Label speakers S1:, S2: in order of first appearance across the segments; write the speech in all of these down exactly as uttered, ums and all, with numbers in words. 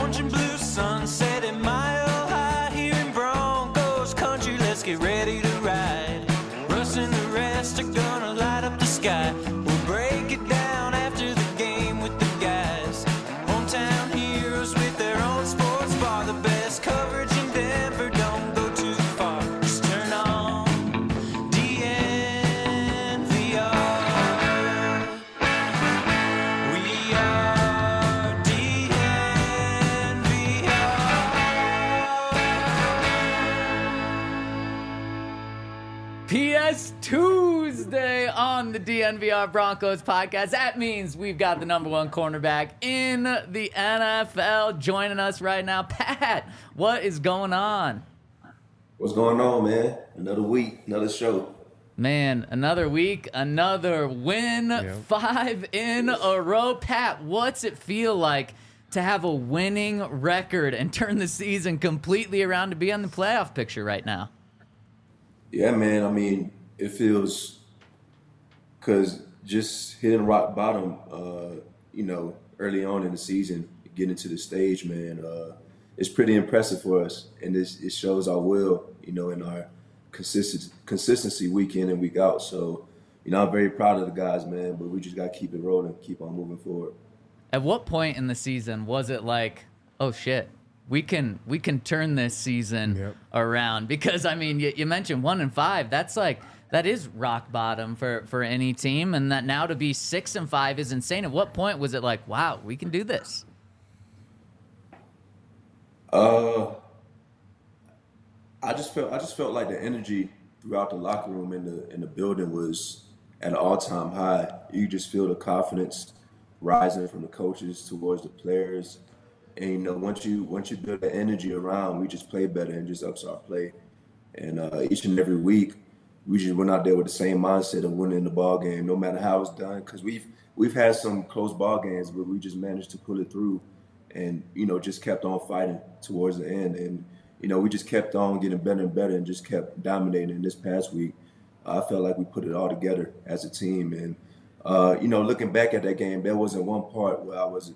S1: orange and blue sunset at Mile High here in Broncos country. Let's get ready to ride. Russ and the rest are gonna light up the sky. We'll break it down after the game with the guys. Hometown heroes with their own sports bar. The best coverage in Denver, don't go too far. Just turn on D N V R. We are D N V R.
S2: P S Tuesday on the D N V R Broncos podcast. That means we've got the number one cornerback in the N F L joining us right now. Pat, what is going on?
S3: What's going on, man? Another week, another show.
S2: Man, another week, another win,
S4: Yep.
S2: five in a row. Pat, what's it feel like to have a winning record and turn the season completely around to be on the playoff picture right now?
S3: Yeah, man. I mean, it feels because just hitting rock bottom, uh, you know, early on in the season, getting to the stage, man, uh, it's pretty impressive for us, and this it shows our will, you know, in our consistent consistency week in and week out. So, you know, I'm very proud of the guys, man. But we just got to keep it rolling, keep on moving forward.
S2: At what point in the season was it like, oh shit, we can we can turn this season
S4: Yep.
S2: around? Because I mean, you, you mentioned one and five. That's like that is rock bottom for for any team, and that now to be six and five is insane. At what point was it like, wow, we can do this?
S3: Uh, I just felt I just felt like the energy throughout the locker room and the in the building was at an all time high. You just feel the confidence rising from the coaches towards the players, and you know once you once you build the energy around, we just play better and just ups our play. And uh, each and every week, we just went out there with the same mindset of winning the ball game, no matter how it's done. Because we've we've had some close ball games, but we just managed to pull it through, and you know just kept on fighting towards the end. And you know we just kept on getting better and better, and just kept dominating. And this past week, I felt like we put it all together as a team. And uh, you know, looking back at that game, there wasn't one part where I was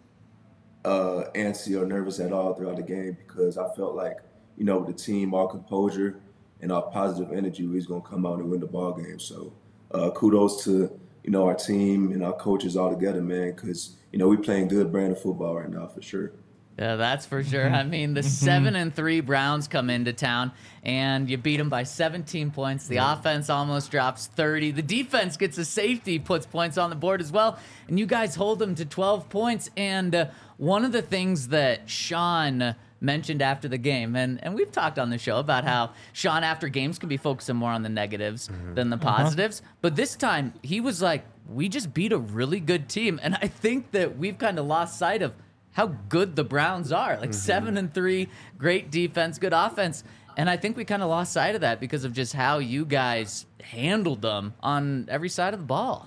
S3: uh, antsy or nervous at all throughout the game, because I felt like, you know, with the team, our composure and our positive energy, we was gonna come out and win the ball game. So uh, kudos to, you know, our team and our coaches all together, man, because you know we playing good brand of football right now for sure.
S2: Yeah, that's for sure. I mean, the seven and three Browns come into town, and you beat them by seventeen points. The offense almost drops thirty. The defense gets a safety, puts points on the board as well, and you guys hold them to twelve points. And uh, one of the things that Sean mentioned after the game, and, and we've talked on the show about how Sean after games can be focusing more on the negatives than the positives, but this time he was like, we just beat a really good team. And I think that we've kind of lost sight of how good the Browns are. Like seven and three, great defense, good offense. And I think we kind of lost sight of that because of just how you guys handled them on every side of the ball.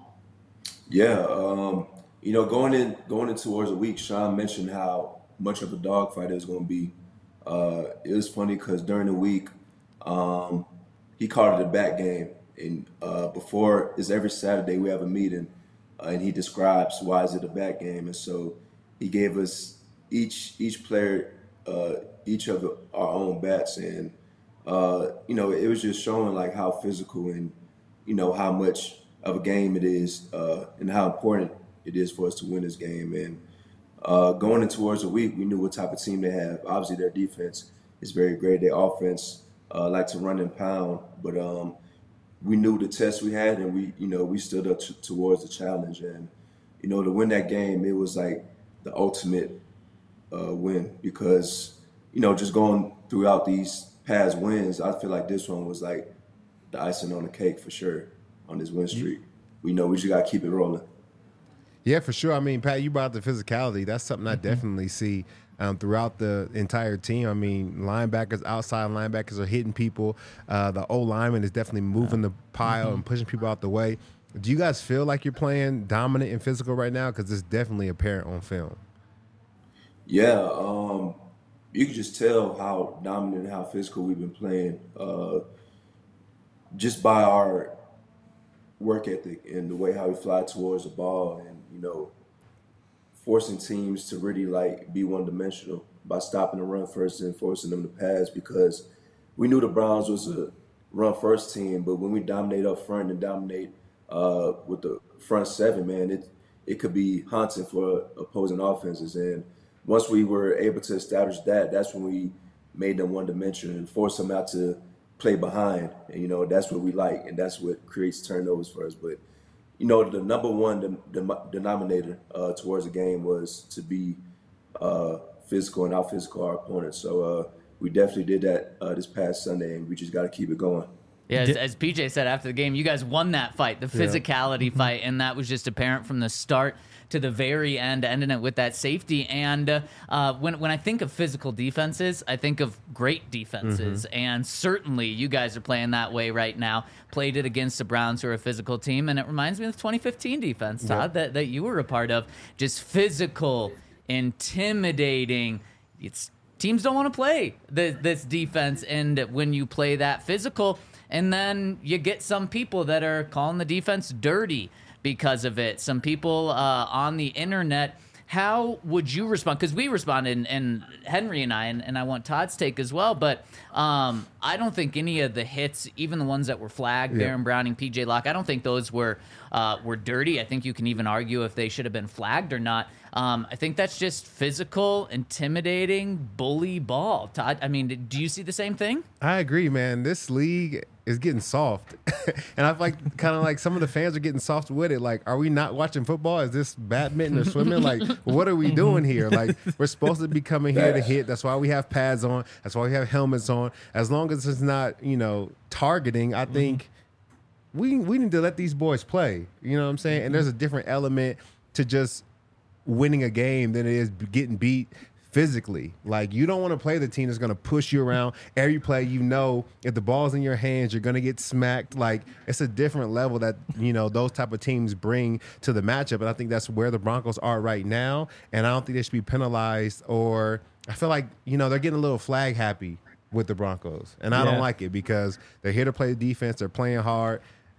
S3: Yeah, um, you know, going in going in towards a week, Sean mentioned how much of a dogfight it was going to be. Uh, it was funny because during the week, um, he called it a back game. And uh, before is every Saturday we have a meeting, uh, and he describes why is it a back game. And so he gave us each each player uh, each of our own bats, and uh, you know it was just showing like how physical and you know how much of a game it is, uh, and how important it is for us to win this game. And uh, going in towards the week, we knew what type of team they have. Obviously, their defense is very great. Their offense uh, like to run and pound, but um, we knew the test we had, and we you know we stood up t- towards the challenge. And you know to win that game, it was like the ultimate uh, win, because you know just going throughout these past wins, I feel like this one was like the icing on the cake for sure on this win streak. We know we just got to keep it rolling.
S4: Yeah, for sure. I mean, Pat, you brought up the physicality. That's something I definitely see um, throughout the entire team. I mean, linebackers, outside linebackers are hitting people. Uh, the O lineman is definitely moving the pile mm-hmm. and pushing people out the way. Do you guys feel like you're playing dominant and physical right now? Because it's definitely apparent on film.
S3: Yeah, um, you can just tell how dominant and how physical we've been playing uh, just by our work ethic and the way how we fly towards the ball, and you know, forcing teams to really like be one dimensional by stopping the run first and forcing them to pass because we knew the Browns was a run first team, but when we dominate up front and dominate uh, with the front seven, man, it it could be haunting for opposing offenses. And once we were able to establish that, that's when we made them one dimensional and forced them out to play behind. And you know that's what we like, and that's what creates turnovers for us. But you know the number one de- de- denominator uh, towards the game was to be uh, physical and out physical our opponents. So uh, we definitely did that uh, this past Sunday, and we just got to keep it going.
S2: Yeah, as, as P J said after the game, you guys won that fight, the physicality
S4: yeah.
S2: fight, and that was just apparent from the start to the very end, ending it with that safety. And uh, uh, when when I think of physical defenses, I think of great defenses, mm-hmm. and certainly you guys are playing that way right now. Played it against the Browns, who are a physical team, and it reminds me of the twenty fifteen defense, Todd, yep. that, that you were a part of. Just physical, intimidating. It's teams don't want to play the, this defense, and when you play that physical, and then you get some people that are calling the defense dirty because of it. Some people uh, on the internet. How would you respond? Because we responded, and, and Henry and I, and, and I want Todd's take as well, but um, I don't think any of the hits, even the ones that were flagged, yeah. Baron Browning, P J Locke, I don't think those were uh, were dirty. I think you can even argue if they should have been flagged or not. Um, I think that's just physical, intimidating, bully ball. Todd, I mean, do you see the same thing?
S4: I agree, man. This league is getting soft. And I feel like kind of like some of the fans are getting soft with it. Like, are we not watching football? Is this badminton or swimming? Like, what are we doing here? Like, we're supposed to be coming here to hit. That's why we have pads on. That's why we have helmets on. As long as it's not, you know, targeting, I think we we need to let these boys play. You know what I'm saying? And there's a different element to just winning a game than it is getting beat physically. Like, you don't want to play the team that's going to push you around every play. You know, if the ball's in your hands, you're going to get smacked. Like, it's a different level that, you know, those type of teams bring to the matchup. And I think that's where the Broncos are right now. And I don't think they should be penalized, or I feel like, you know, they're getting a little flag happy with the Broncos. And I yeah. don't like it because they're here to play the defense. They're playing hard.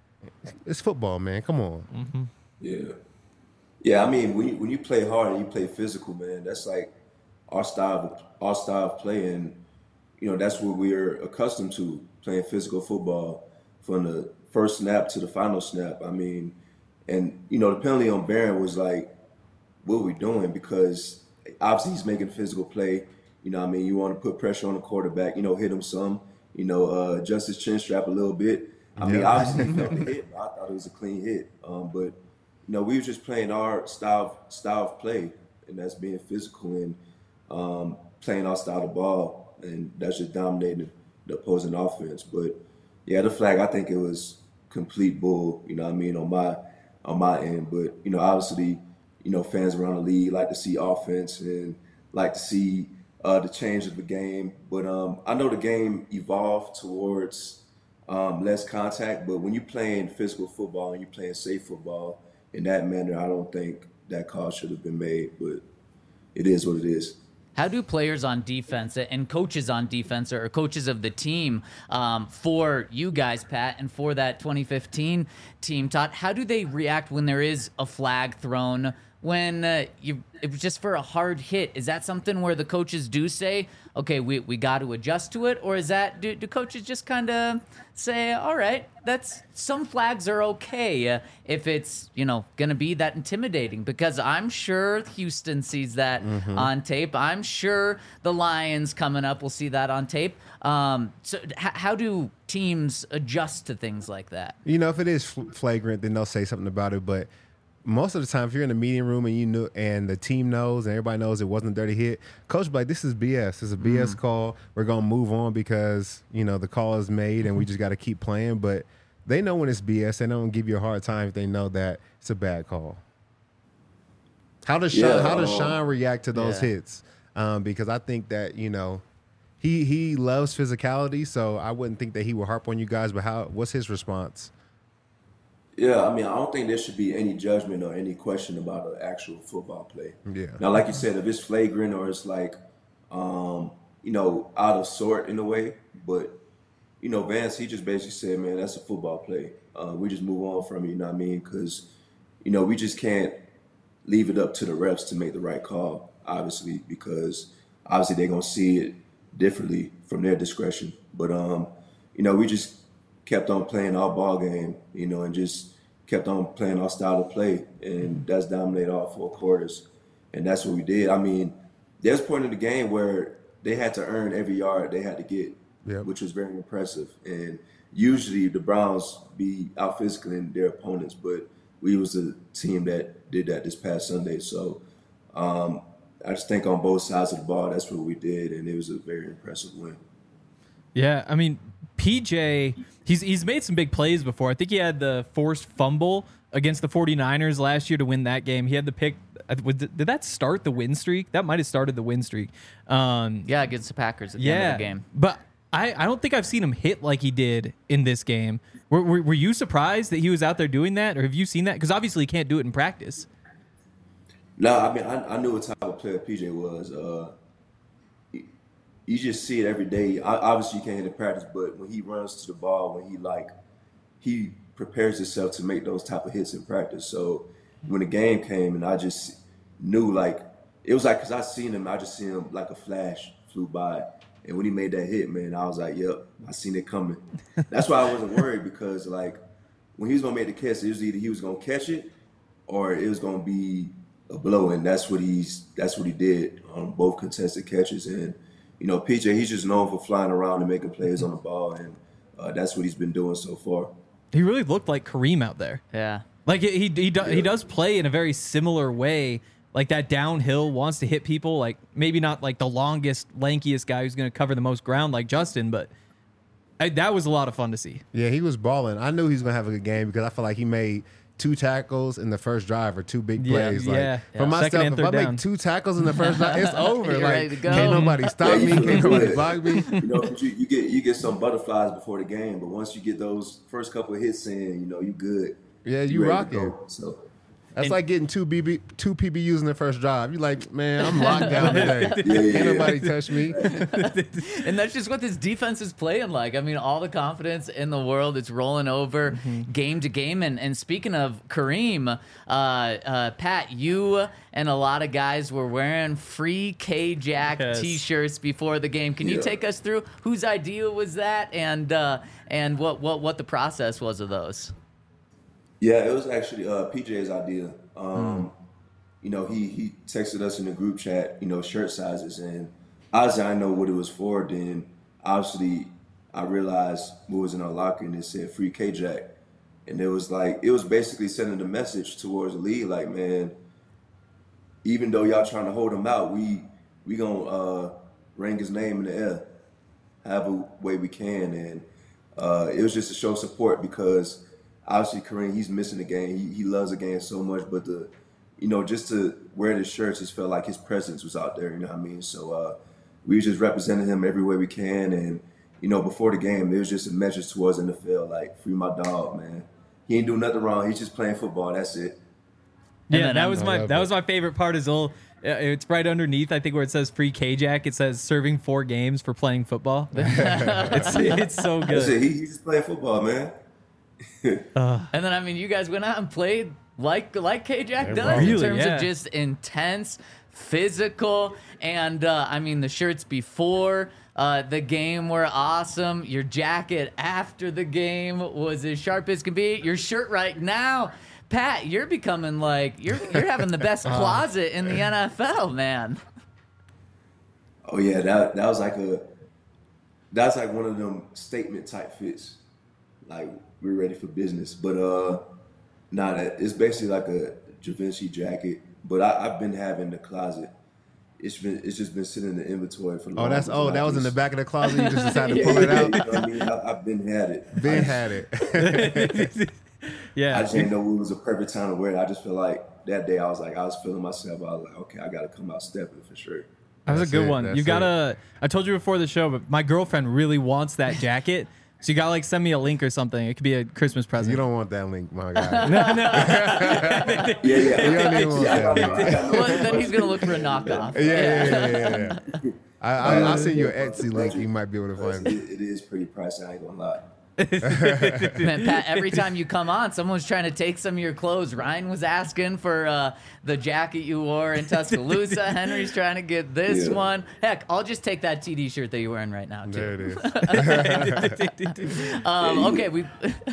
S4: It's football, man. Come on.
S3: Mm-hmm. Yeah. Yeah, I mean, when you, when you play hard and you play physical, man, that's like our style of, our style of play. And, you know, that's what we're accustomed to, playing physical football from the first snap to the final snap. I mean, and, you know, the penalty on Baron was like, what are we doing? Because obviously he's making physical play. You know what I mean? You want to put pressure on the quarterback, you know, hit him some, you know, uh, adjust his chin strap a little bit. I mean, yeah. obviously he felt the hit. I thought it was a clean hit. Um, but, you know, we were just playing our style style of play, and that's being physical and um, playing our style of ball, and that's just dominating the opposing offense. But yeah, the flag, I think it was complete bull. You know what I mean, on my on my end. But you know, obviously, you know, fans around the league like to see offense and like to see uh, the change of the game. But um, I know the game evolved towards um, less contact. But when you're playing physical football and you're playing safe football in that manner, I don't think that call should have been made, but it is what it is.
S2: How do players on defense and coaches on defense, or coaches of the team, um, for you guys, Pat, and for that twenty fifteen team, Todd, how do they react when there is a flag thrown, when uh, you it was just for a hard hit? Is that something where the coaches do say, okay, we, we got to adjust to it? Or is that, do, do coaches just kind of say, all right, that's, some flags are okay uh, if it's, you know, going to be that intimidating? Because I'm sure Houston sees that mm-hmm. on tape. I'm sure the Lions coming up will see that on tape. Um, so h- how do teams adjust to things like that?
S4: You know, if it is fl- flagrant, then they'll say something about it. But most of the time, if you're in the meeting room and you know, and the team knows and everybody knows it wasn't a dirty hit, coach be like, this is B S. This is a B S mm. call. We're going to move on because, you know, the call is made and we just got to keep playing. But they know when it's B S. They don't give you a hard time if they know that it's a bad call. How does Sean, yeah, how does Sean react to those yeah. hits? Um, because I think that, you know, he he loves physicality, so I wouldn't think that he would harp on you guys. But how? What's his response?
S3: Yeah, I mean, I don't think there should be any judgment or any question about an actual football play.
S4: Yeah.
S3: Now, like you said, if it's flagrant or it's like, um, you know, out of sort in a way, but, you know, Vance, he just basically said, man, that's a football play. Uh, we just move on from it, you know what I mean? Because, you know, we just can't leave it up to the refs to make the right call, obviously, because obviously they're gonna see it differently from their discretion. But um, you know, we just kept on playing our ball game, you know, and just kept on playing our style of play, and that's dominated all four quarters, and that's what we did. I mean, there's a point in the game where they had to earn every yard they had to get,
S4: Yep.
S3: which was very impressive. And usually the Browns be out physicaling their opponents, but we was a team that did that this past Sunday. So um, I just think on both sides of the ball, that's what we did, and it was a very impressive win.
S5: Yeah, I mean, P J, he's he's made some big plays before. I think he had the forced fumble against the 49ers last year to win that game. He had the pick. Did that start the win streak? That might have started the win streak. Um,
S2: Yeah, against the Packers at the
S5: yeah,
S2: end of the game.
S5: But I, I don't think I've seen him hit like he did in this game. Were, were, were you surprised that he was out there doing that, or have you seen that? Because obviously he can't do it in practice.
S3: No, I mean, I, I knew what type of player P J was. Uh, you, you just see it every day. I, obviously, you can't hit in practice, but when he runs to the ball, when he like, he prepares himself to make those type of hits in practice. So when the game came, and I just knew, like, it was like, because I seen him, I just seen him like a flash flew by. And when he made that hit, man, I was like, yep, I seen it coming. That's why I wasn't worried, because, like, when he was going to make the catch, it was either he was going to catch it or it was going to be a blow, and that's what he's that's what he did on both contested catches. And you know, P J, he's just known for flying around and making plays on the ball, and uh, that's what he's been doing so far.
S5: He really looked like Kareem out there.
S2: Yeah.
S5: Like he he he, do,
S3: Yeah.
S5: he does play in a very similar way, like that downhill, wants to hit people. Like maybe not like the longest, lankiest guy who's going to cover the most ground like Justin, but I, that was a lot of fun to see.
S4: Yeah, he was balling. I knew he was gonna have a good game because I feel like he made two tackles in the first drive or two big
S5: Yeah,
S4: plays. Like,
S5: yeah.
S4: For
S5: Yeah.
S4: myself,
S5: Second and
S4: if I
S5: third
S4: make
S5: down.
S4: two tackles in the first drive, it's over.
S2: You're
S4: like
S2: ready to go.
S4: can't nobody stop
S3: Yeah,
S4: me,
S3: you
S4: can't
S3: feel
S4: nobody
S3: good.
S4: block me.
S3: You know, 'cause you, you get you get some butterflies before the game, but once you get those first couple of hits in, you know, you good.
S4: Yeah, you
S3: ready to
S4: rocking.
S3: go. So
S4: That's like getting two B B two P B Us in the first drive. You're like, man, I'm locked down today.
S3: Yeah, yeah,
S4: Can't
S3: yeah.
S4: nobody touch me.
S2: And that's just what this defense is playing like. I mean, all the confidence in the world. It's rolling over
S5: Mm-hmm.
S2: game to game. And, and speaking of Kareem, uh, uh, Pat, you and a lot of guys were wearing free K-Jack
S5: Yes.
S2: T-shirts before the game. Can you
S3: Yeah.
S2: take us through whose idea was that, and uh, and what, what, what the process was of those?
S3: yeah, it was actually uh, P J's idea. Um, You know, he he texted us in the group chat, you know, shirt sizes, and obviously I know what it was for. Then obviously I realized what was in our locker, and it said free K-Jack, and it was like it was basically sending a message towards the league, like, man, even though y'all trying to hold him out, we we gonna uh, ring his name in the air, however way we can, and uh, it was just to show support because obviously Kareem, he's missing the game. He he loves the game so much, but the you know just to wear the shirts, just felt like his presence was out there. You know what I mean? So uh, we just represented him every way we can, and you know before the game, it was just a message towards the N F L, like free my dog, man. He ain't do nothing wrong. He's just playing football. That's it.
S2: And
S5: Yeah,
S2: then
S5: that
S2: I'm-
S5: was
S4: I
S5: my
S4: love
S5: that
S4: it.
S5: was my favorite part. Is all uh, it's right underneath. I think where it says free K-Jack, it says serving four games for playing football. it's it's so
S3: That's
S5: good.
S3: it. He, he's just playing football, man.
S2: And then, I mean, you guys went out and played like like K-Jack
S4: Yeah,
S2: does
S4: really,
S2: in terms
S5: yeah.
S2: of just intense, physical, and uh, I mean, the shirts before uh, the game were awesome. Your jacket after the game was as sharp as can be. Your shirt right now, Pat, you're becoming like you're you're having the best closet in the N F L, man.
S3: Oh yeah, that that was like a that's like one of them statement type fits. Like we're ready for business, but uh, nah, that- it's basically like a Givenchy jacket. But I, I've been having the closet. It's been it's just been sitting in the inventory for.
S4: Oh, that's oh, that was in the back of the closet. You just decided to
S3: Yeah,
S4: pull it
S3: you
S4: out.
S3: know what I mean, I, I've been had it.
S4: Ben
S3: I,
S4: had it.
S5: Yeah,
S3: I just didn't know it was a perfect time to wear it. I just feel like that day I was like I was feeling myself. I was like, okay, I got to come out stepping for sure.
S5: that was a
S4: That's
S5: good
S4: it,
S5: one.
S4: that's
S5: You
S4: it.
S5: gotta. I told you before the show, but my girlfriend really wants that jacket. So you gotta like send me a link or something. It could be a Christmas present.
S4: You don't want that link, my guy.
S3: Yeah, yeah.
S4: You don't even want
S3: Yeah, I
S4: that.
S3: know, I think I know.
S2: Well, then he's gonna look for a knockoff.
S4: Yeah, yeah, yeah, yeah. yeah. I, I, I'll send you an Etsy link. You might be able to find
S3: It,
S4: it.
S3: it is pretty pricey. I ain't gonna lie.
S2: Man, Pat, every time you come on, someone's trying to take some of your clothes. Ryan was asking for uh, the jacket you wore in Tuscaloosa. Henry's trying to get this
S3: Yeah.
S2: one. Heck, I'll just take that T D shirt that you're wearing right now, too.
S4: There it is.
S2: Um, okay, we.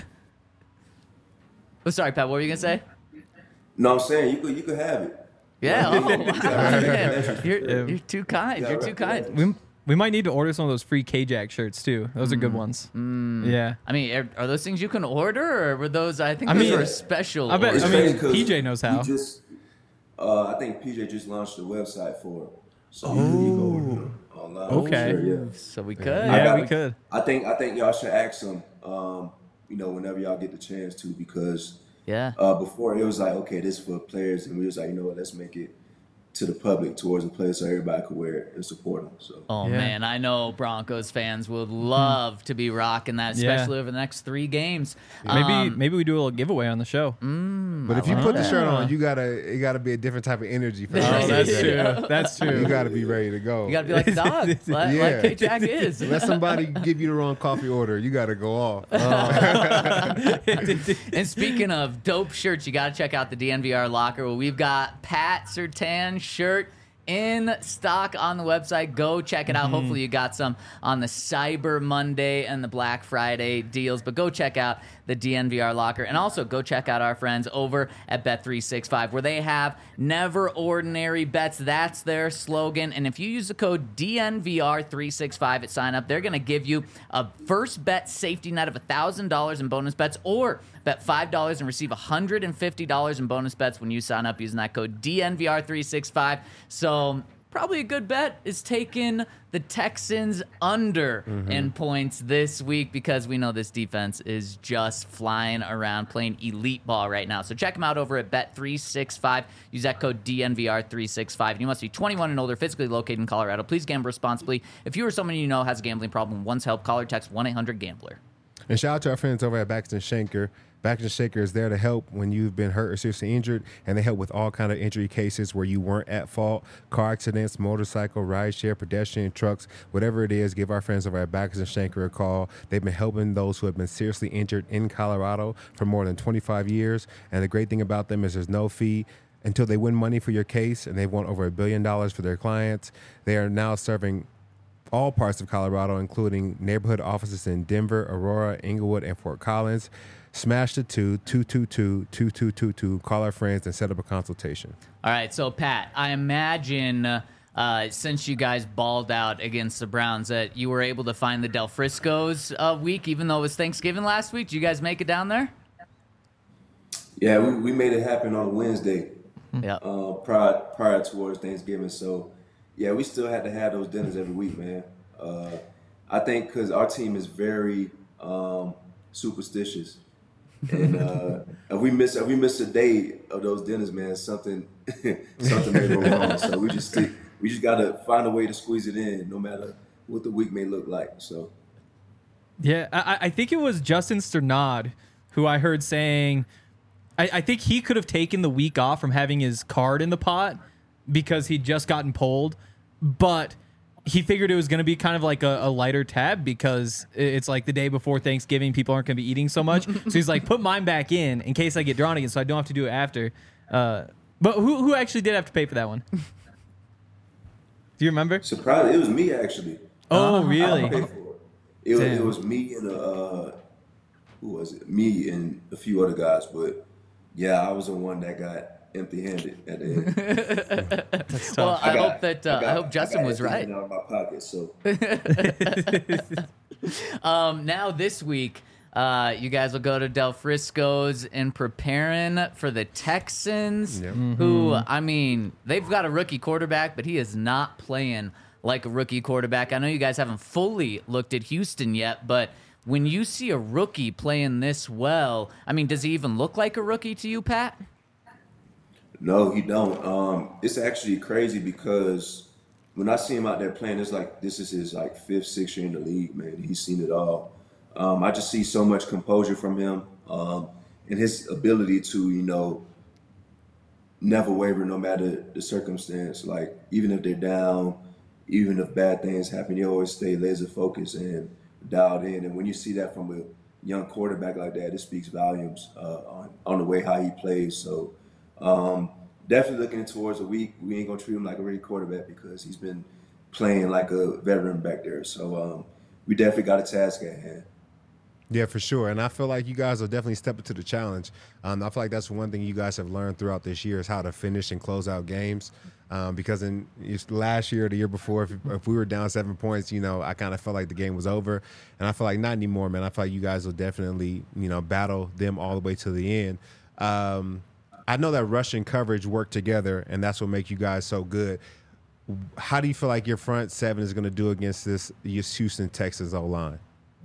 S2: oh, sorry, Pat. What were you gonna say?
S3: No, I'm saying you could you could have it.
S2: Yeah. Oh, wow. Man,
S3: Yeah.
S2: you're, you're too kind.
S3: Yeah,
S2: You're too
S3: right.
S2: kind.
S5: We we might need to order some of those free K-Jack shirts too. Those are good ones. Yeah.
S2: I mean, are, are those things you can order, or were those? I think
S5: I
S2: those
S5: mean,
S2: were special.
S5: I bet-
S3: It's
S5: I
S2: orders.
S5: mean,
S3: crazy 'cause
S5: P J knows how.
S3: we Just, uh, I think P J just launched a website for it, so you can you can order them online.
S5: Oh. Okay.
S3: Sure, yeah.
S2: so we could.
S5: Yeah,
S3: got-
S5: we could.
S3: I think I think y'all should ask them. Um, you know, whenever y'all get the chance to, because
S2: Yeah.
S3: uh, before it was like, okay, this is for players, and we was like, you know what, let's make it to the public, towards the players, so everybody could wear it and support them. So.
S2: Oh
S5: Yeah.
S2: man, I know Broncos fans would love to be rocking that,
S5: Yeah.
S2: especially over the next three games.
S5: Maybe
S2: Um,
S5: maybe we do a little giveaway on the show.
S4: But if you put the shirt on, you gotta it gotta be a different type of energy for
S5: Oh,
S4: us.
S5: that's true. That's
S4: You
S5: true.
S4: gotta be ready to go.
S2: you gotta be like a dog, like, like
S4: Yeah.
S2: K-Jack is.
S4: Let somebody give you the wrong coffee order. You gotta go off.
S2: And speaking of dope shirts, you got to check out the D N V R locker. Well, we've got Pat Surtain shirt in stock on the website. Go check it out. Hopefully you got some on the Cyber Monday and the Black Friday deals, but go check out the D N V R locker, and also go check out our friends over at Bet three sixty-five, where they have never ordinary bets. That's their slogan. And if you use the code D N V R three sixty-five at sign up, they're going to give you a first bet safety net of one thousand dollars in bonus bets, or bet five dollars and receive one hundred fifty dollars in bonus bets when you sign up using that code D N V R three sixty-five. So probably a good bet is taking the Texans under in points this week, because we know this defense is just flying around playing elite ball right now. So check them out over at Bet three sixty-five. Use that code D N V R three sixty-five. And you must be twenty-one and older, physically located in Colorado. Please gamble responsibly. If you or someone you know has a gambling problem, once help, call or text one eight hundred gambler.
S4: And shout out to our friends over at Baxter and Shanker. Baxter and Shanker is there to help when you've been hurt or seriously injured, and they help with all kind of injury cases where you weren't at fault: car accidents, motorcycle, rideshare, pedestrian, trucks, whatever it is. Give our friends over at Baxter and Shanker a call. They've been helping those who have been seriously injured in Colorado for more than twenty-five years. And the great thing about them is there's no fee until they win money for your case, and they've won over a billion dollars for their clients. They are now serving all parts of Colorado, including neighborhood offices in Denver, Aurora, Inglewood, and Fort Collins. Smash the two, two two two, two two two two. Call our friends and set up a consultation.
S2: All right, so Pat, I imagine uh, since you guys balled out against the Browns that you were able to find the Del Frisco's uh, week, even though it was Thanksgiving last week. Did you guys make it down there?
S3: Yeah, we, we made it happen on a Wednesday,
S2: Yeah.
S3: uh, prior prior towards Thanksgiving. So, yeah, we still had to have those dinners every week, man. Uh, I think because our team is very um, superstitious, and uh, if we miss if we miss a day of those dinners, man, something something may go wrong. So we just stick, we just gotta find a way to squeeze it in, no matter what the week may look like. So.
S5: Yeah, I, I think it was Justin Sternad who I heard saying, I, I think he could have taken the week off from having his card in the pot because he'd just gotten pulled, but he figured it was going to be kind of like a, a lighter tab because it's like the day before Thanksgiving, people aren't going to be eating so much. So he's like, put mine back in in case I get drawn again, so I don't have to do it after. Uh, but who who actually did have to pay for that one? Do you remember?
S3: Surprised, it was me actually.
S5: Oh,
S3: I
S5: really?
S3: paid for it. It was, it
S5: Damn.
S3: was me and uh, who was it? Me and a few other guys, but yeah, I was the one that got empty-handed at the end.
S5: That's
S2: Well,
S5: tough.
S2: I,
S3: got-
S2: hope that uh, I,
S3: got-
S2: hope Justin
S3: got
S2: was right.
S3: everything out of my pocket, so
S2: Um, now this week, uh, you guys will go to Del Frisco's in preparing for the Texans,
S4: Yep.
S2: who, I mean, they've got a rookie quarterback, but he is not playing like a rookie quarterback. I know you guys haven't fully looked at Houston yet, but when you see a rookie playing this well, I mean, does he even look like a rookie to you, Pat?
S3: no, he don't. Um, it's actually crazy because when I see him out there playing, it's like this is his like fifth, sixth year in the league, man. He's seen it all. Um, I just see so much composure from him, um, and his ability to, you know, never waver no matter the circumstance. Like even if they're down, even if bad things happen, you always stay laser focused and dialed in. And when you see that from a young quarterback like that, it speaks volumes uh, on on the way how he plays. So um, definitely looking towards a week. We ain't gonna treat him like a rookie quarterback because he's been playing like a veteran back there. So um, we definitely got a task at hand.
S4: Yeah, for sure. And I feel like you guys will definitely step into the challenge. Um, I feel like that's one thing you guys have learned throughout this year is how to finish and close out games. Um, because in last year or the year before, if, if we were down seven points, you know, I kind of felt like the game was over. And I feel like not anymore, man. I feel like you guys will definitely, you know, battle them all the way to the end. Um, I know that rush and coverage work together, and that's what makes you guys so good. How do you feel like your front seven is going to do against this Houston Texans O-line?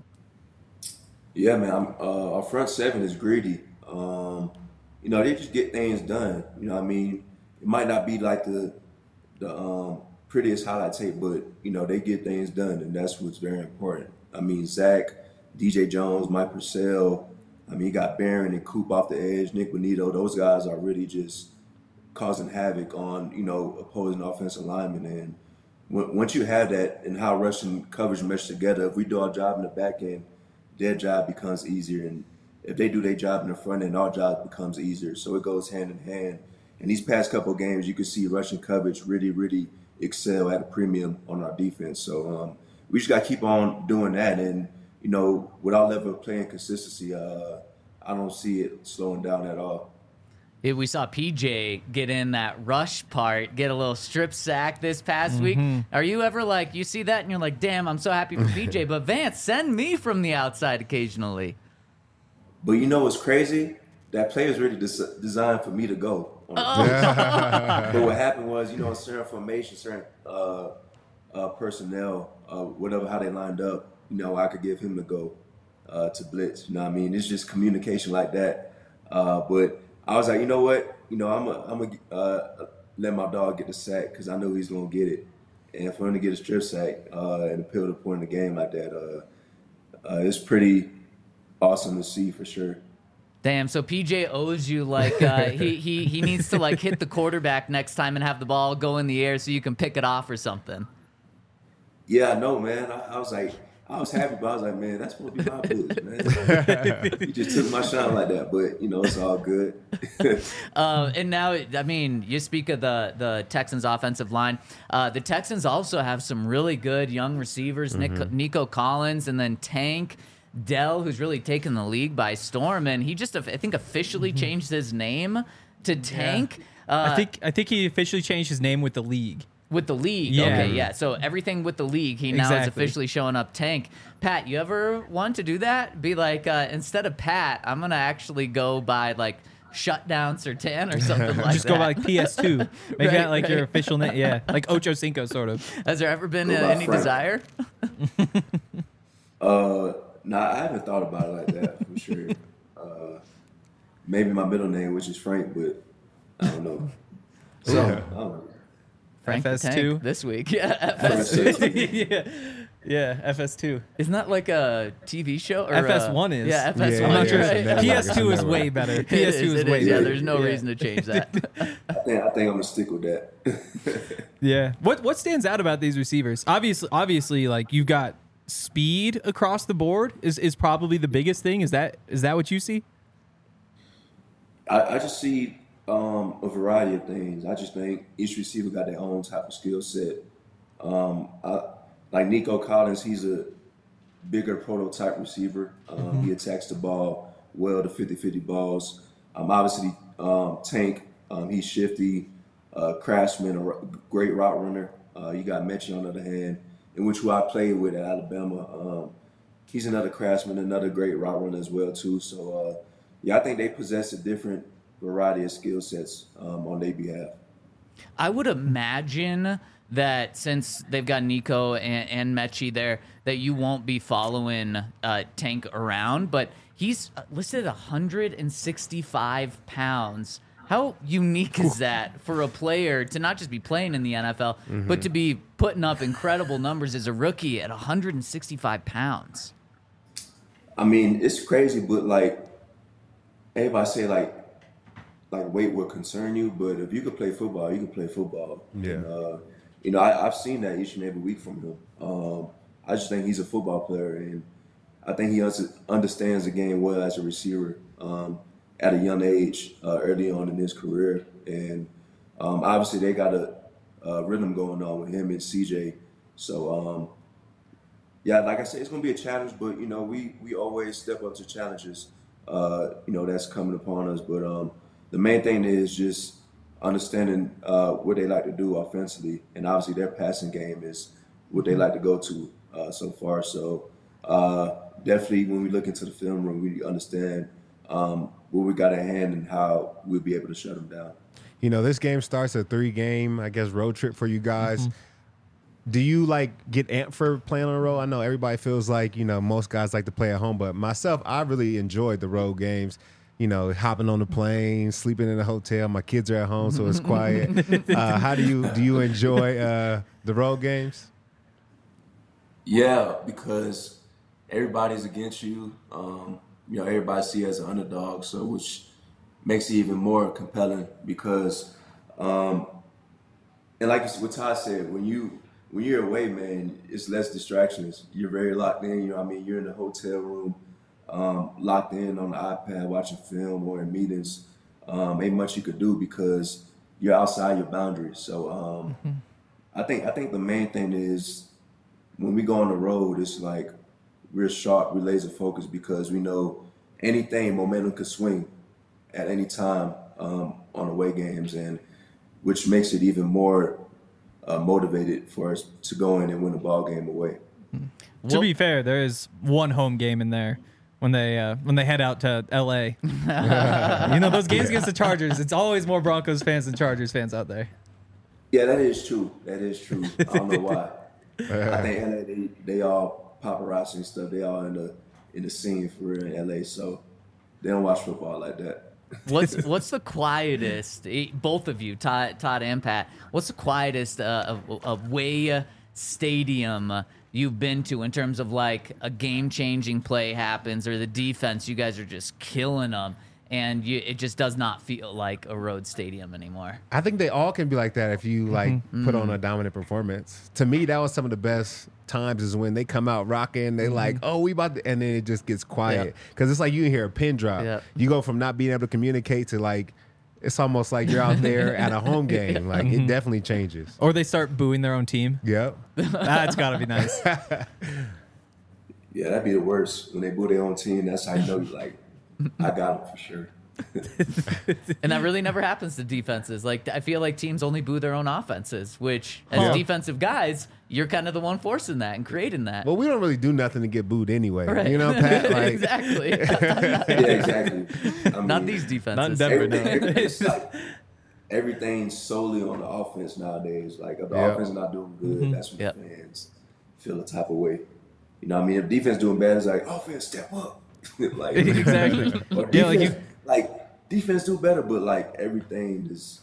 S3: Yeah, man. I'm, uh, our front seven is greedy. Um, you know, they just get things done. You know what I mean? It might not be like the the um, prettiest highlight tape, but, you know, they get things done, and that's what's very important. I mean, Zach, D J Jones, Mike Purcell, I mean, you got Barron and Coop off the edge, Nick Bonito. Those guys are really just causing havoc on, you know, opposing offensive linemen. And when, once you have that and how rush and coverage mesh together, if we do our job in the back end, their job becomes easier, and if they do their job in the front end, our job becomes easier. So it goes hand in hand. And these past couple of games, you can see rushing coverage really, really excel at a premium on our defense. So um, we just got to keep on doing that. And, you know, with our level of playing consistency, uh, I don't see it slowing down at all.
S2: It, we saw P J get in that rush part, get a little strip sack this past week. Are you ever like, you see that and you're like, damn, I'm so happy for P J, but Vance, send me from the outside occasionally.
S3: But you know what's crazy? That play is really des- designed for me to go. On
S2: Oh.
S3: But what happened was, you know, certain formation, certain uh, uh, personnel, uh, whatever, how they lined up, you know, I could give him the go uh, to blitz. You know what I mean? It's just communication like that. Uh, but I was like, you know what? You know, I'm a, I'm gonna uh, let my dog get the sack because I know he's gonna get it. And for him to get a strip sack uh, and a pivotal point in the game like that, uh, uh, it's pretty awesome to see for sure.
S2: Damn, so P J owes you like uh, he he he needs to like hit the quarterback next time and have the ball go in the air so you can pick it off or something.
S3: Yeah, I know, man. I, I was like, I was happy, but I was like, man, that's supposed to be my boots, man. You just took my shine like that, but you know, it's all good.
S2: Uh, and now, I mean, you speak of the the Texans' offensive line. Uh, the Texans also have some really good young receivers,
S4: Mm-hmm.
S2: Nick, Nico Collins, and then Tank Dell, who's really taken the league by storm. And he just, I think, officially
S4: Mm-hmm.
S2: changed his name to Tank. Uh,
S5: I think I think he officially changed his name with the league.
S2: With the league.
S5: Yeah.
S2: Okay, yeah. So everything with the league, he now is
S5: Exactly.
S2: officially showing up Tank. Pat, you ever want to do that? Be like, uh, instead of Pat, I'm going to actually go by like Shutdown Sertan or something like
S5: Just
S2: that.
S5: go by like P S two. Make
S2: Right,
S5: that like your
S2: right.
S5: official name. Yeah, like Ocho Cinco sort of.
S2: Has there ever been uh,
S3: Go by
S2: any
S3: Frank.
S2: desire?
S3: Uh, nah, I haven't thought about it like that for sure. Uh, maybe my middle name, which is Frank, but I don't know. So, I don't know.
S2: Frank the
S5: F S
S2: Tank
S5: two.
S2: this week. Yeah, F S two.
S5: yeah, yeah. F S two.
S2: Isn't that like a T V show? Or
S5: F S one
S2: uh,
S5: is.
S2: Yeah, F S one.
S4: Yeah,
S5: I'm not
S4: yeah,
S5: sure.
S4: it's a network.
S5: P S two
S4: It's
S5: is
S4: a
S5: way
S4: network.
S5: better.
S2: It
S5: P S two
S2: is,
S5: is
S2: it
S5: way
S2: is. Yeah,
S5: better.
S2: there's no
S5: Yeah.
S2: reason to change that.
S3: I think I think I'm gonna stick with that.
S5: Yeah. What what stands out about these receivers? Obviously, obviously, like you've got speed across the board is, is probably the biggest thing. Is that is that what you see?
S3: I, I just see um, a variety of things. I just think each receiver got their own type of skill set. Um, I, like Nico Collins, he's a bigger prototype receiver. Um, He attacks the ball well, the fifty-fifty balls. Um, obviously, um, Tank, um, he's shifty. Uh, Craftsman, a r- great route runner. Uh, you got Mechie on the other hand, in which who I played with at Alabama. Um, he's another Craftsman, another great route runner as well too. So uh, yeah, I think they possess a different variety of skill sets um, on their behalf.
S2: I would imagine that since they've got Nico and, and Mechie there, that you won't be following uh, Tank around, but he's listed at one hundred sixty-five pounds. How unique is that for a player to not just be playing in the N F L,
S4: Mm-hmm.
S2: but to be putting up incredible numbers as a rookie at one hundred sixty-five pounds?
S3: I mean, it's crazy, but like everybody say, like like weight will concern you, but if you could play football, you can play football.
S4: Yeah.
S3: And, uh, you know, I, I've seen that each and every week from him. Um, I just think he's a football player, and I think he un- understands the game well as a receiver um, at a young age, uh, early on in his career. And um, obviously they got a, a rhythm going on with him and C J. So, um, yeah, like I said, it's going to be a challenge, but, you know, we, we always step up to challenges, uh, you know, that's coming upon us. But um, the main thing is just understanding uh, what they like to do offensively. And obviously their passing game is what they like to go to uh, so far. So uh, definitely when we look into the film room, we understand um, what we got at hand and how we'll be able to shut them down.
S4: You know, this game starts a three-game, I guess, road trip for you guys. Mm-hmm. Do you, like, get amped for playing on the road? I know everybody feels like, you know, most guys like to play at home, but myself, I really enjoyed the road games. You know, hopping on the plane, sleeping in a hotel. My kids are at home, so it's quiet. uh, how do you do you enjoy uh, the road games?
S3: Yeah, because everybody's against you. Um, you know, everybody see you as an underdog, so which makes it even more compelling because, um, and like what Todd said, when you when you're away, man, it's less distractions. You're very locked in. You know, what I mean, you're in the hotel room, um, locked in on the iPad, watching film or in meetings. Um, ain't much you could do because you're outside your boundaries. So um, mm-hmm. I think I think the main thing is when we go on the road, it's like we're sharp, we're laser focused because we know anything, momentum could swing at any time um, on away games, and which makes it even more uh, motivated for us to go in and win a ball game away.
S5: Mm-hmm. To be fair, there is one home game in there when they uh, when they head out to L A. You know, those games against the Chargers, it's always more Broncos fans than Chargers fans out there.
S3: Yeah, that is true. That is true. I don't know why. I think L A, they, they all paparazzi and stuff. They all in the in the scene for real in L A, so they don't watch football like that.
S2: What's what's the quietest? Both of you, Todd, Todd and Pat. What's the quietest uh, away stadium you've been to in terms of like a game-changing play happens or the defense? You guys are just killing them, and you, it just does not feel like a road stadium anymore.
S4: I think they all can be like that if you like mm-hmm. put on a dominant performance. To me, that was some of the best times is when they come out rocking. They mm-hmm. like, oh, we about to, and then it just gets quiet because yep. it's like you hear a pin drop. Yep. You go from not being able to communicate to like, it's almost like you're out there at a home game. Like mm-hmm. it definitely changes.
S5: Or they start booing their own team.
S4: Yep,
S5: that's got to be nice.
S3: Yeah, that'd be the worst when they boo their own team. That's how you know, like, I got them for sure.
S2: And that really never happens to defenses. Like, I feel like teams only boo their own offenses, which as
S4: yeah.
S2: defensive guys, you're kind of the one forcing that and creating that.
S4: Well, we don't really do nothing to get booed anyway.
S2: Right.
S4: You know, Pat? Like,
S2: exactly.
S3: Yeah, exactly. I mean,
S2: not these defenses.
S5: Not in Denver,
S3: everything,
S5: no.
S3: It's like everything's solely on the offense nowadays. Like, if the
S4: Yep.
S3: offense is not doing good,
S5: Mm-hmm.
S3: that's when
S2: Yep.
S3: fans feel the type of way. You know what I mean? If defense doing bad, it's like, offense, step up. Like,
S5: Exactly.
S3: or defense,
S5: Yeah, like you-
S3: like, defense do better, but like everything is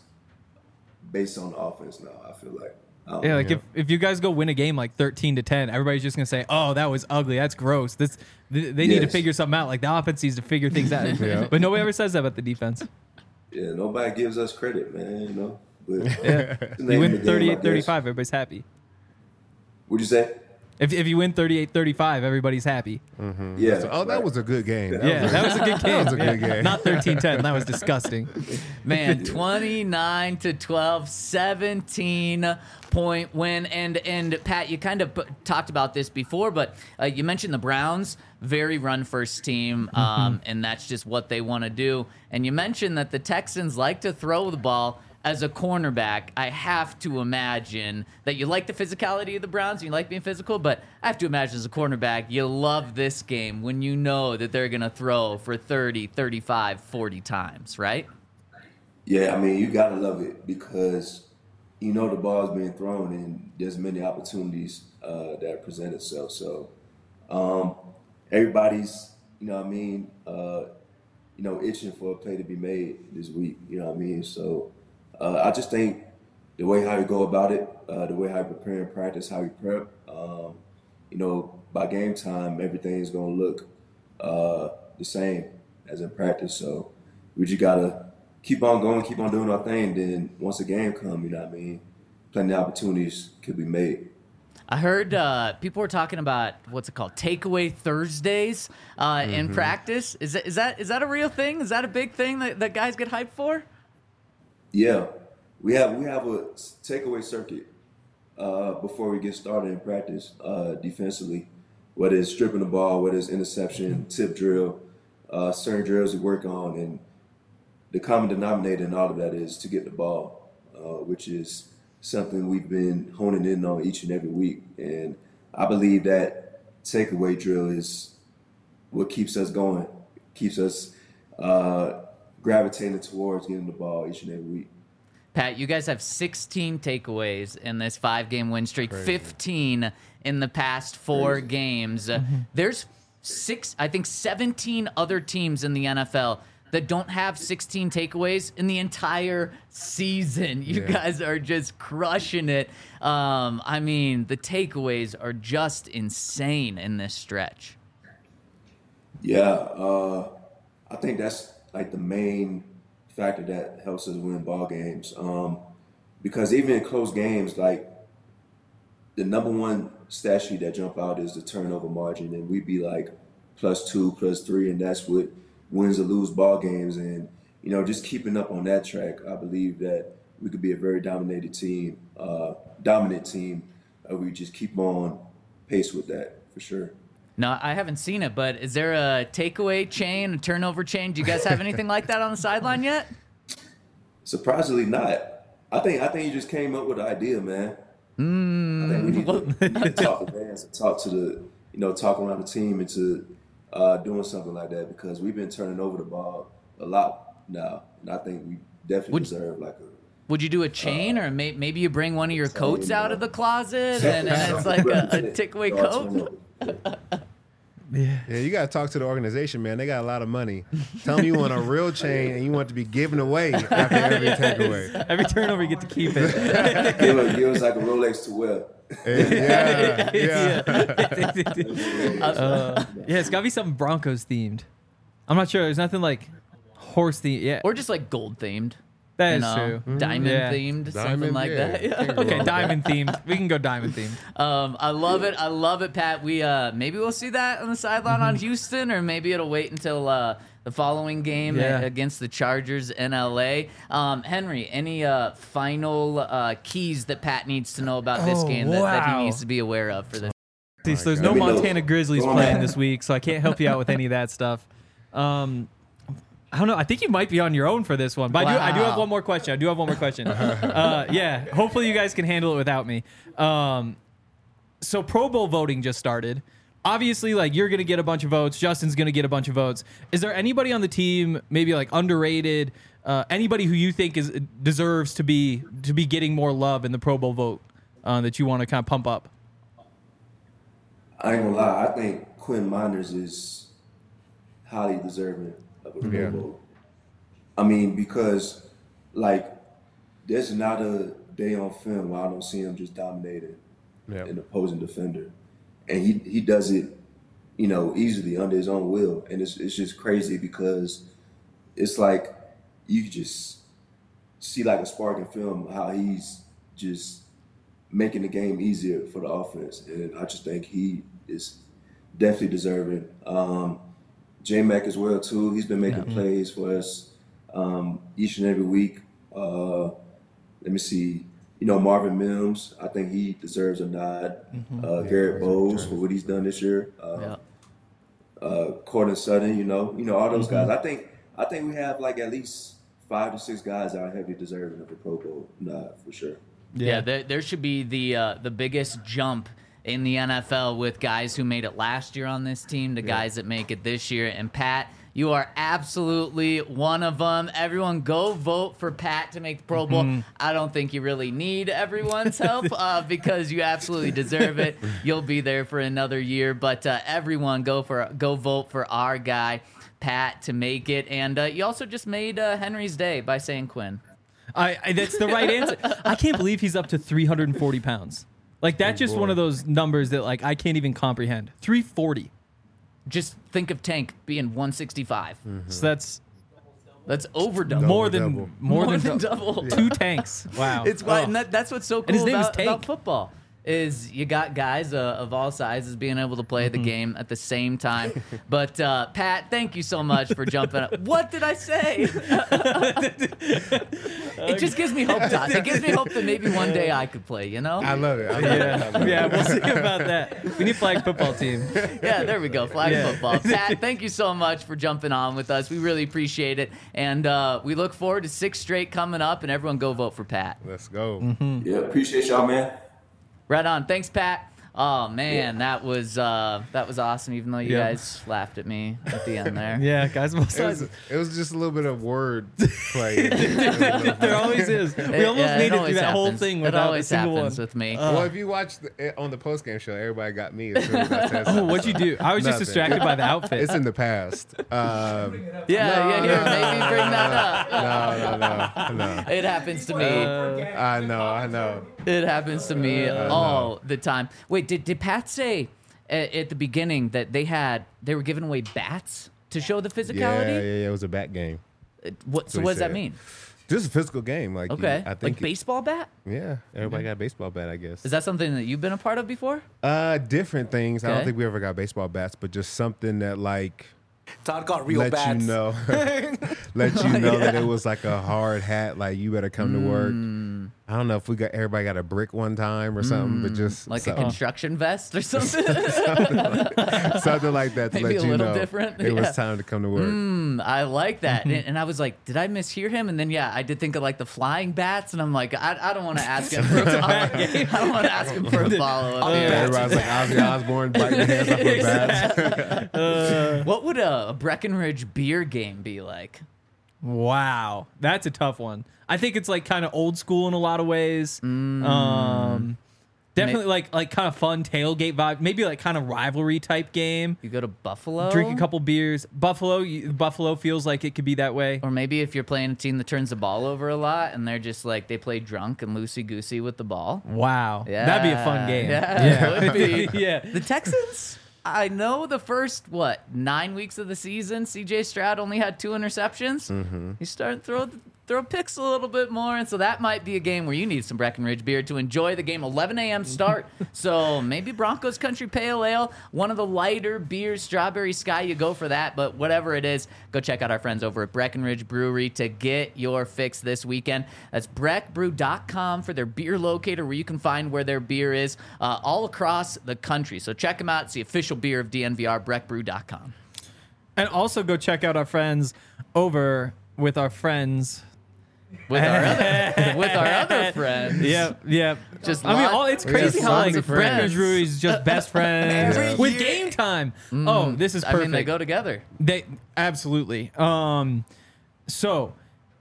S3: based on the offense now, I feel like. I don't
S5: Yeah,
S3: know.
S5: like if, if you guys go win a game like thirteen to ten, everybody's just gonna say, "Oh, that was ugly. That's gross." This they, they need to
S3: Yes.
S5: figure something out. Like the offense needs to figure things out.
S4: Yeah.
S5: But nobody ever says that about the defense.
S3: Yeah, nobody gives us credit, man, you know. But
S5: Yeah.
S3: it's the
S5: You
S3: name of
S5: win
S3: the game, I
S5: thirty-eight
S3: guess.
S5: thirty-five, everybody's happy.
S3: What'd you say?
S5: If if you win thirty-eight thirty-five, everybody's happy.
S3: Yeah.
S4: so- oh, that
S3: right.
S4: was a good game. That
S5: Yeah,
S4: was a-
S5: that was a good game.
S4: That was a good
S5: Yeah.
S4: game.
S5: Not thirteen ten. That was disgusting.
S2: Man, twenty-nine to twelve, seventeen point win. And and Pat, you kind of p- talked about this before, but uh, you mentioned the Browns, very run first team, um, and that's just what they want to do. And you mentioned that the Texans like to throw the ball. As a cornerback, I have to imagine that you like the physicality of the Browns and you like being physical, but I have to imagine as a cornerback, you love this game when you know that they're going to throw for thirty, thirty-five, forty times, right?
S3: Yeah, I mean, you gotta love it because you know the ball's being thrown and there's many opportunities uh, that present itself. So um, everybody's, you know what I mean, uh, you know, itching for a play to be made this week, you know what I mean? So uh, I just think the way how you go about it, uh, the way how you prepare and practice, how you prep, um, you know, by game time, everything's gonna look uh, the same as in practice. So we just gotta keep on going, keep on doing our thing. Then once the game comes, you know what I mean, plenty of opportunities could be made.
S2: I heard uh, people were talking about what's it called, takeaway Thursdays uh,
S4: Mm-hmm.
S2: in practice. Is that, is that is that a real thing? Is that a big thing that, that guys get hyped for?
S3: Yeah, we have we have a takeaway circuit uh, before we get started in practice uh, defensively. Whether it's stripping the ball, whether it's interception, tip drill, uh, certain drills we work on, and the common denominator in all of that is to get the ball, uh, which is something we've been honing in on each and every week. And I believe that takeaway drill is what keeps us going, keeps us uh, gravitating towards getting the ball each and every week.
S2: Pat, you guys have sixteen takeaways in this five-game win streak, fifteen in the past four
S3: Crazy.
S2: games. Uh, there's six, I think seventeen other teams in the N F L that don't have sixteen takeaways in the entire season. You
S4: Yeah.
S2: guys are just crushing it. Um, I mean, the takeaways are just insane in this stretch.
S3: Yeah, uh, I think that's like the main factor that helps us win ball games. Um, because even in close games, like the number one stat sheet that jump out is the turnover margin, and we'd be like plus two, plus three, and that's what wins or lose ball games. And you know, just keeping up on that track, I believe that we could be a very dominated team, uh, dominant team. Uh, we just keep on pace with that for sure.
S2: No, I haven't seen it, but is there a takeaway chain, a turnover chain? Do you guys have anything like that on the sideline yet?
S3: Surprisingly not. I think I think you just came up with the idea, man. Mm, I think we need to, need to talk to fans and talk to the, you know, talk around the team into uh, doing something like that, because we've been turning over the ball a lot now, and I think we definitely
S2: Would-
S3: deserve like a.
S2: Would you do a chain, or may, maybe you bring one of your
S3: Chain,
S2: coats out
S3: uh,
S2: of the closet and, and it's like a, a takeaway coat?
S4: Yeah, you got to talk to the organization, man. They got a lot of money. Tell them you want a real chain and you want it to be given away after every takeaway.
S5: Every turnover, you get to keep it.
S3: give, us, give us like a Rolex to wear.
S4: Yeah, yeah.
S5: Uh, yeah, it's got to be something Broncos themed. I'm not sure. There's nothing like horse themed. Yeah,
S2: Or just like gold themed.
S5: that
S2: You
S5: is
S2: know,
S5: true.
S2: diamond
S5: Yeah.
S2: themed, something
S4: Diamond,
S2: like
S4: yeah.
S2: that. Yeah.
S4: Can't go
S5: Okay,
S4: wrong.
S5: diamond themed. We can go diamond themed.
S2: Um, I love it. I love it, Pat. We uh, maybe we'll see that on the sideline
S5: Mm-hmm.
S2: on Houston, or maybe it'll wait until uh, the following game
S5: Yeah.
S2: against the Chargers in L A. Um, Henry, any uh, final uh, keys that Pat needs to know about this
S5: Oh,
S2: game that, that he
S5: wow.
S2: needs to be aware of for this?
S5: See, so there's
S4: God.
S5: no
S3: Let me know.
S5: Montana Grizzlies
S3: Go on,
S5: playing
S3: man.
S5: this week, so I can't help you out with any of that stuff. Um, I don't know. I think you might be on your own for this one, but I do. I do have
S2: Wow.
S5: one more question. I do have one more question. uh, yeah, hopefully you guys can handle it without me. Um, so Pro Bowl voting just started. Obviously, like you're gonna get a bunch of votes. Justin's gonna get a bunch of votes. Is there anybody on the team, maybe like underrated, uh, anybody who you think is deserves to be to be getting more love in the Pro Bowl vote uh, that you want to kind of pump up?
S3: I ain't gonna lie. I think Quinn Miners is highly deserving of a Pro
S4: Yeah.
S3: Bowl. I mean, because like there's not a day on film where I don't see him just dominating
S4: Yeah.
S3: an opposing defender, and he he does it, you know, easily under his own will, and it's it's just crazy because it's like you just see like a spark in film how he's just making the game easier for the offense, and I just think he is definitely deserving. Um, J-Mac as well too. He's been making plays for us um, each and every week. Uh, let me see. You know, Marvin Mims, I think he deserves a nod. Uh, Garrett Bowles for what he's done this year. Uh,
S2: Yeah.
S3: uh, Cortland Sutton, you know, you know all those guys. I think I think we have like at least five to six guys that are heavily deserving of a Pro Bowl nod for sure.
S2: Yeah, there, there should be the uh, the biggest jump in the N F L with guys who made it last year on this team to guys that make it this year. And Pat, you are absolutely one of them. Everyone go vote for Pat to make the Pro Bowl. I don't think you really need everyone's help uh, because you absolutely deserve it. You'll be there for another year. But uh, everyone go for go vote for our guy, Pat, to make it. And uh, you also just made uh, Henry's day by saying Quinn.
S5: I, I that's the right answer. I can't believe he's up to three hundred forty pounds. Like that's just one of those numbers that like I can't even comprehend. three forty.
S2: Just think of Tank being one sixty-five.
S5: So that's
S2: That's over double.
S5: more
S4: Double,
S5: than
S4: double.
S5: more,
S2: More
S5: than,
S2: than
S5: dou-
S2: double.
S5: Two tanks. Wow.
S2: It's why,
S5: Oh.
S2: and that, that's what's so
S5: his
S2: cool
S5: name is
S2: about, about
S5: Tank.
S2: football. is you got guys uh, of all sizes being able to play the game at the same time. But uh, Pat, thank you so much for jumping up. What did I say? It just gives me hope, Todd. It gives me hope that maybe one day I could play, you know?
S4: I love it. I love it. I love it.
S5: Yeah, we'll see about that. We need flag football team.
S2: Yeah, there we go. Flag
S5: Yeah.
S2: football. Pat, thank you so much for jumping on with us. We really appreciate it. And uh, we look forward to six straight coming up, and everyone go vote for Pat.
S4: Let's go.
S3: Yeah, appreciate y'all, man.
S2: Right on. Thanks, Pat. Oh man, that was uh, that was awesome. Even though you
S5: Yeah.
S2: guys laughed at me at the end there.
S5: Yeah, guys, both
S4: It was,
S5: sides.
S4: it was just a little bit of word play.
S5: There always is. We
S2: It-
S5: almost
S2: yeah, it
S5: made it
S2: always
S5: through that whole
S2: happens.
S5: thing
S2: It
S5: without a
S2: always
S5: single
S2: happens
S5: one.
S2: with me.
S4: well, if you watch the, on the post game show, everybody got me. As soon as I said
S5: Oh,
S4: something.
S5: what'd you do? I was just
S4: Nothing.
S5: distracted by the outfit.
S4: It's in the past. Um,
S2: yeah,
S4: no,
S2: yeah. Here,
S4: no,
S2: maybe bring that up.
S4: no, no, no, no.
S2: It happens to me.
S4: I know, I know.
S2: It happens to me all the time. Wait, did did Pat say at, at the beginning that they had they were giving away bats to show the
S4: Yeah,
S2: physicality?
S4: yeah, yeah. It was a bat game.
S2: What, so
S4: what he
S2: what does that
S4: said.
S2: mean?
S4: Just a physical game. Like, you-
S2: Okay,
S4: I think.
S2: like baseball bat.
S4: Yeah, everybody got a baseball bat, I guess.
S2: Is that something that you've been a part of before?
S4: Uh, different things. I
S2: Okay.
S4: don't think we ever got baseball bats, but just something that like
S6: Todd got real
S4: let
S6: bats.
S4: you know, let you know that it was like a hard hat. Like you better come to work.
S2: Mm.
S4: I don't know if we got everybody got a brick one time or something, but just
S2: Like a
S4: something,
S2: construction vest or something?
S4: something like that to
S2: Maybe
S4: let
S2: a
S4: you
S2: little
S4: know
S2: different,
S4: it
S2: yeah.
S4: was time to come to work.
S2: Mm, I like that. And, and I was like, did I mishear him? And then, yeah, I did think of like the flying bats. And I'm like, I, I don't want to ask him for a follow I don't want to ask him for a follow up.
S4: Yeah, everybody's like Ozzy Osbourne biting the hands off of bats.
S2: What would a, a Breckenridge beer game be like?
S5: Wow, that's a tough one. I think it's like kind of old school in a lot of ways.
S2: Mm.
S5: Um, definitely like like kind of fun tailgate vibe. Maybe like kind of rivalry type game.
S2: You go to Buffalo?
S5: Drink a couple beers. Buffalo, you, Buffalo feels like it could be that way.
S2: Or maybe if you're playing a team that turns the ball over a lot and they're just like, they play drunk and loosey-goosey with the ball.
S5: Wow,
S2: Yeah.
S5: that'd be a fun game.
S2: Yeah, it would be.
S5: yeah.
S2: The Texans, I know the first, what, nine weeks of the season, C J Stroud only had two interceptions. Mm-hmm. He's starting to throw, throw picks a little bit more, and so that might be a game where you need some Breckenridge beer to enjoy the game. eleven a.m. start, so maybe Broncos Country Pale Ale, one of the lighter beers, Strawberry Sky, you go for that, but whatever it is, go check out our friends over at Breckenridge Brewery to get your fix this weekend. That's breck brew dot com for their beer locator where you can find where their beer is uh, all across the country. So check them out. It's the official beer of D N V R, breck brew dot com.
S5: And also go check out our friends over with our friends.
S2: With our other, with our other friends.
S5: Yep, yep.
S2: Just
S5: I mean,
S2: lot-
S5: all, it's
S4: we got
S5: crazy how
S4: so
S5: like
S4: many friends.
S5: Breckenridge Brewery is just best friends
S6: Every
S5: with
S6: year.
S5: game time. Oh, this is
S2: I
S5: perfect.
S2: mean, they go together.
S5: They absolutely. Um, so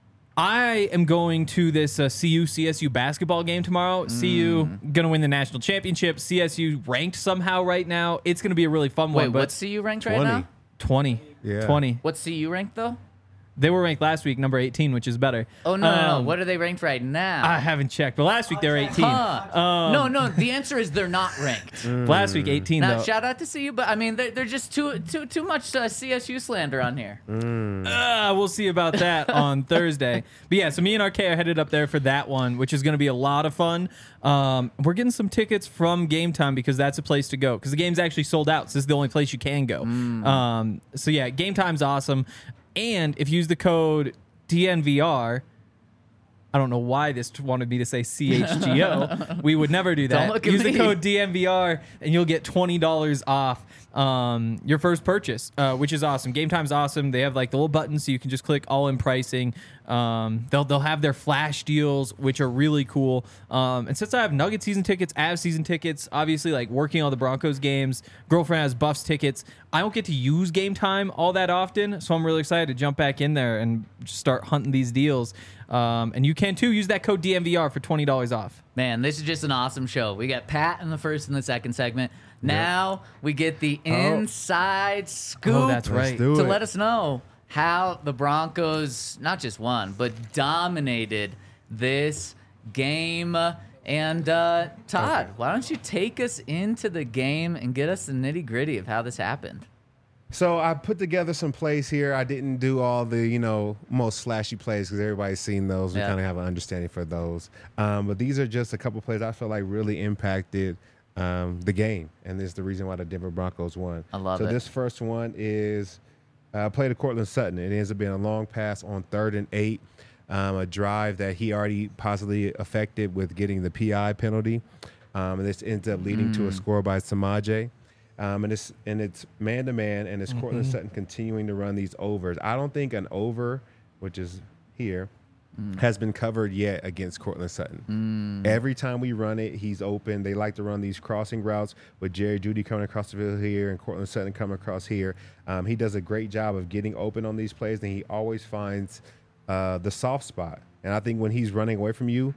S5: I am going to this uh, C U C S U basketball game tomorrow. C U
S2: Mm.
S5: gonna win the national championship. C S U ranked somehow right now. It's gonna be a really fun
S2: Wait,
S5: one. But
S2: what's C U ranked right
S4: twenty.
S2: now?
S5: twenty?
S4: Yeah.
S5: twenty.
S2: What's C U ranked though?
S5: They were ranked last week, number eighteen, which is better.
S2: Oh no, no, no.
S5: Um,
S2: What are they ranked right now?
S5: I haven't checked, but last week they were eighteen.
S2: Huh.
S5: Um,
S2: no, no. The answer is they're not ranked.
S5: Last week eighteen
S2: Now,
S5: though.
S2: shout out to C U, but I mean, they're, they're just too too too much uh, C S U slander on here.
S5: Uh, we'll see about that on Thursday. But yeah, so me and R K are headed up there for that one, which is going to be a lot of fun. Um, we're getting some tickets from Game Time because that's a place to go because the game's actually sold out. So this is the only place you can go. Um, so yeah, Game Time's awesome. And if you use the code D N V R, I don't know why this wanted me to say C H G O. We would never do that.
S2: Don't look at
S5: Use the
S2: me.
S5: code D N V R and you'll get twenty dollars off um, your first purchase, uh, which is awesome. Game Time's awesome. They have like the little buttons so you can just click all in pricing. Um, they'll they'll have their flash deals, which are really cool. Um, and since I have Nugget season tickets, Avs season tickets, obviously like working all the Broncos games, girlfriend has Buffs tickets. I don't get to use Game Time all that often, so I'm really excited to jump back in there and just start hunting these deals. Um, and you can too. Use that code D N V R for twenty dollars off.
S2: Man, this is just an awesome show. We got Pat in the first and the second segment. Now we get the inside scoop
S5: Oh, that's right.
S4: Let's do
S2: to
S4: it.
S2: let us know how the Broncos not just won, but dominated this game. And uh, Todd, why don't you take us into the game and get us the nitty gritty of how this happened?
S4: So I put together some plays here. I didn't do all the, you know, most flashy plays because everybody's seen those. We
S2: Yeah.
S4: kind of have an understanding for those. Um, but these are just a couple plays I feel like really impacted um, the game. And this is the reason why the Denver Broncos won.
S2: I love
S4: so
S2: it.
S4: this first one is uh, play to Cortland Sutton. It ends up being a long pass on third and eight, um, a drive that he already possibly affected with getting the P I penalty. Um, and this ends up leading
S2: Mm.
S4: to a score by Samaje. Um, and it's and it's man to man, and it's Cortland Sutton continuing to run these overs. I don't think an over, which is here, has been covered yet against Cortland Sutton. Every time we run it, he's open. They like to run these crossing routes with Jerry Jeudy coming across the field here and Cortland Sutton coming across here. Um, he does a great job of getting open on these plays, and he always finds uh, the soft spot. And I think when he's running away from you,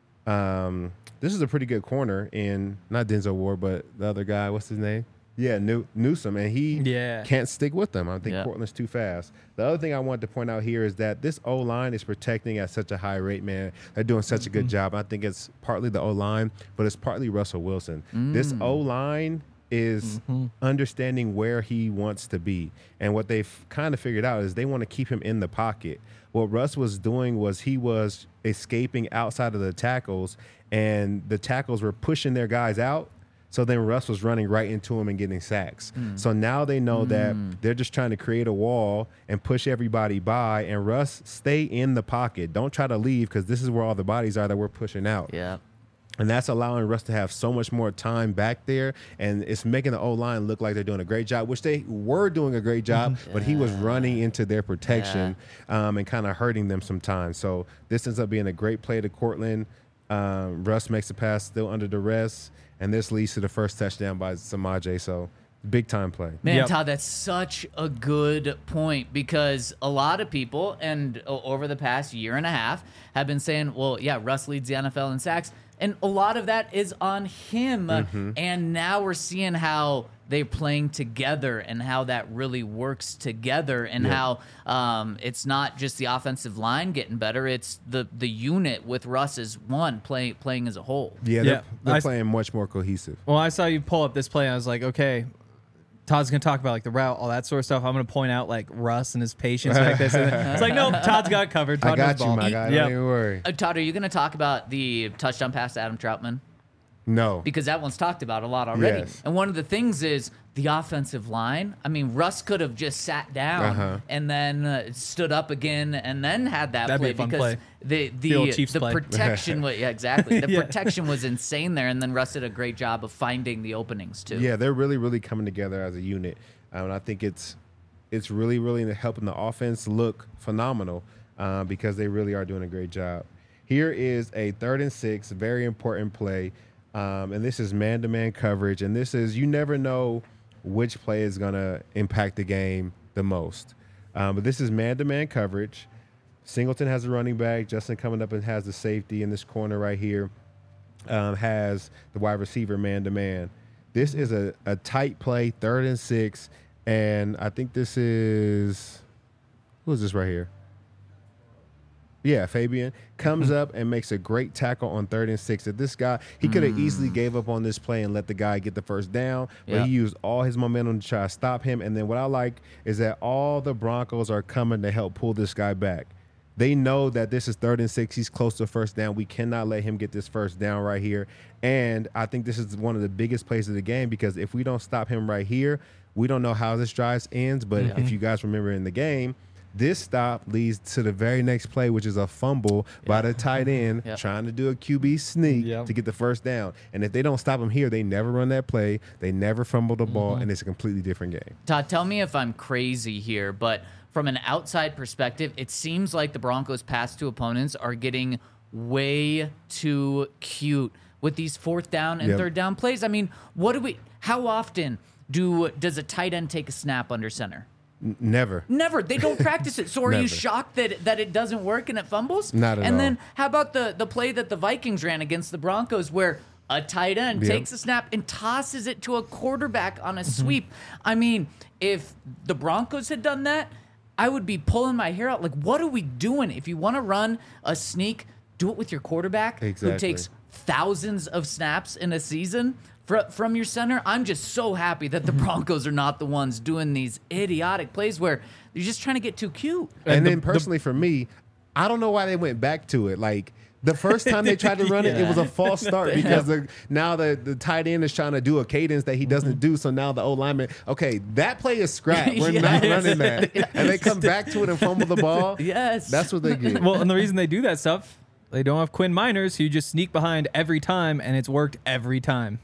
S4: um, this is a pretty good corner in not Denzel Ward, but the other guy. What's his name? Yeah, New, Newsome, and he
S5: Yeah.
S4: can't stick with them. I think
S2: Yeah.
S4: Cortland's too fast. The other thing I wanted to point out here is that this O-line is protecting at such a high rate, man. They're doing such a good job. I think it's partly the O-line, but it's partly Russell Wilson. This O-line is understanding where he wants to be. And what they've kind of figured out is they want to keep him in the pocket. What Russ was doing was he was escaping outside of the tackles, and the tackles were pushing their guys out. So then Russ was running right into him and getting sacks. So now they know that they're just trying to create a wall and push everybody by. And Russ, stay in the pocket. Don't try to leave because this is where all the bodies are that we're pushing out.
S2: Yeah.
S4: And that's allowing Russ to have so much more time back there. And it's making the O-line look like they're doing a great job, which they were doing a great job, but he was running into their protection um, and kind of hurting them sometimes. So this ends up being a great play to Cortland. Um, Russ makes the pass still under duress. And this leads to the first touchdown by Samaje. So big time play.
S2: Man,
S5: Yep.
S2: Todd, that's such a good point because a lot of people, and o- over the past year and a half, have been saying, well, yeah, Russ leads the N F L in sacks. And a lot of that is on him.
S4: Mm-hmm.
S2: And now we're seeing how they're playing together and how that really works together and how um, it's not just the offensive line getting better. It's the, the unit with Russ as one play, playing as a whole.
S4: Yeah,
S5: Yeah.
S4: they're, they're
S5: I-
S4: playing much more cohesive.
S5: Well, I saw you pull up this play, and I was like, okay, Todd's gonna talk about like the route, all that sort of stuff. I'm gonna point out like Russ and his patience like this. And then, it's like, no, Todd's got it covered. Todd
S4: I got
S5: knows
S4: you,
S5: ball.
S4: my guy.
S5: Yep.
S4: Don't even worry.
S2: Uh, Todd, are you going to talk about the touchdown pass to Adam Troutman?
S4: No.
S2: Because that one's talked about a lot already.
S4: Yes.
S2: And one of the things is the offensive line. I mean, Russ could have just sat down
S4: Uh-huh.
S2: and then uh, stood up again and then had that
S5: That'd be
S2: play
S5: a fun
S2: because
S5: play.
S2: the
S5: The old
S2: the
S5: Chiefs
S2: the
S5: play.
S2: protection was yeah exactly the
S5: Yeah.
S2: protection was insane there, and then Russ did a great job of finding the openings too.
S4: Yeah, they're really, really coming together as a unit. Um, and I think it's it's really, really helping the offense look phenomenal uh, because they really are doing a great job. Here is a third and six, very important play. Um, and this is man-to-man coverage. And this is, you never know which play is going to impact the game the most. Um, but this is man-to-man coverage. Singleton has a running back. Justin coming up and has the safety in this corner right here. Um, has the wide receiver man-to-man. This is a, a tight play, third and six. And I think this is, who is this right here? Yeah, Fabian comes up and makes a great tackle on third and six. If this guy, he could have easily gave up on this play and let the guy get the first down, but
S2: Yeah.
S4: he used all his momentum to try to stop him. And then what I like is that all the Broncos are coming to help pull this guy back. They know that this is third and six. He's close to first down. We cannot let him get this first down right here. And I think this is one of the biggest plays of the game because if we don't stop him right here, we don't know how this drive ends. But if you guys remember in the game, this stop leads to the very next play, which is a fumble by the tight end
S2: Yep.
S4: trying to do a Q B sneak
S5: Yep.
S4: to get the first down. And if they don't stop him here, they never run that play. They never fumble the ball, and it's a completely different game.
S2: Todd, tell me if I'm crazy here, but from an outside perspective, it seems like the Broncos' pass to opponents are getting way too cute with these fourth down and
S4: Yep.
S2: third down plays. I mean, what do we? How often do does a tight end take a snap under center?
S4: N- never.
S2: Never. They don't practice it. So are you
S4: Never.
S2: shocked that that it doesn't work and it fumbles?
S4: Not at
S2: and
S4: all.
S2: then how about the the play that the Vikings ran against the Broncos where a tight end
S4: Yep.
S2: takes a snap and tosses it to a quarterback on a sweep? I mean, if the Broncos had done that, I would be pulling my hair out. Like, what are we doing? If you want to run a sneak, do it with your quarterback who
S4: Exactly.
S2: takes thousands of snaps in a season. fr- from your center, I'm just so happy that the Broncos are not the ones doing these idiotic plays where you're just trying to get too cute.
S4: And,
S5: And the-
S4: then personally for me, I don't know why they went back to it. Like the first time they tried to run it, it was a false start because the, now the, the tight end is trying to do a cadence that he doesn't do. So now the old lineman, okay, that play is scrap. We're
S2: Yes.
S4: not running that. And they come back to it and fumble the ball.
S2: Yes.
S4: That's what they get.
S5: Well, and the reason they do that stuff, they don't have Quinn Miners, who just sneak behind every time, and it's worked every time.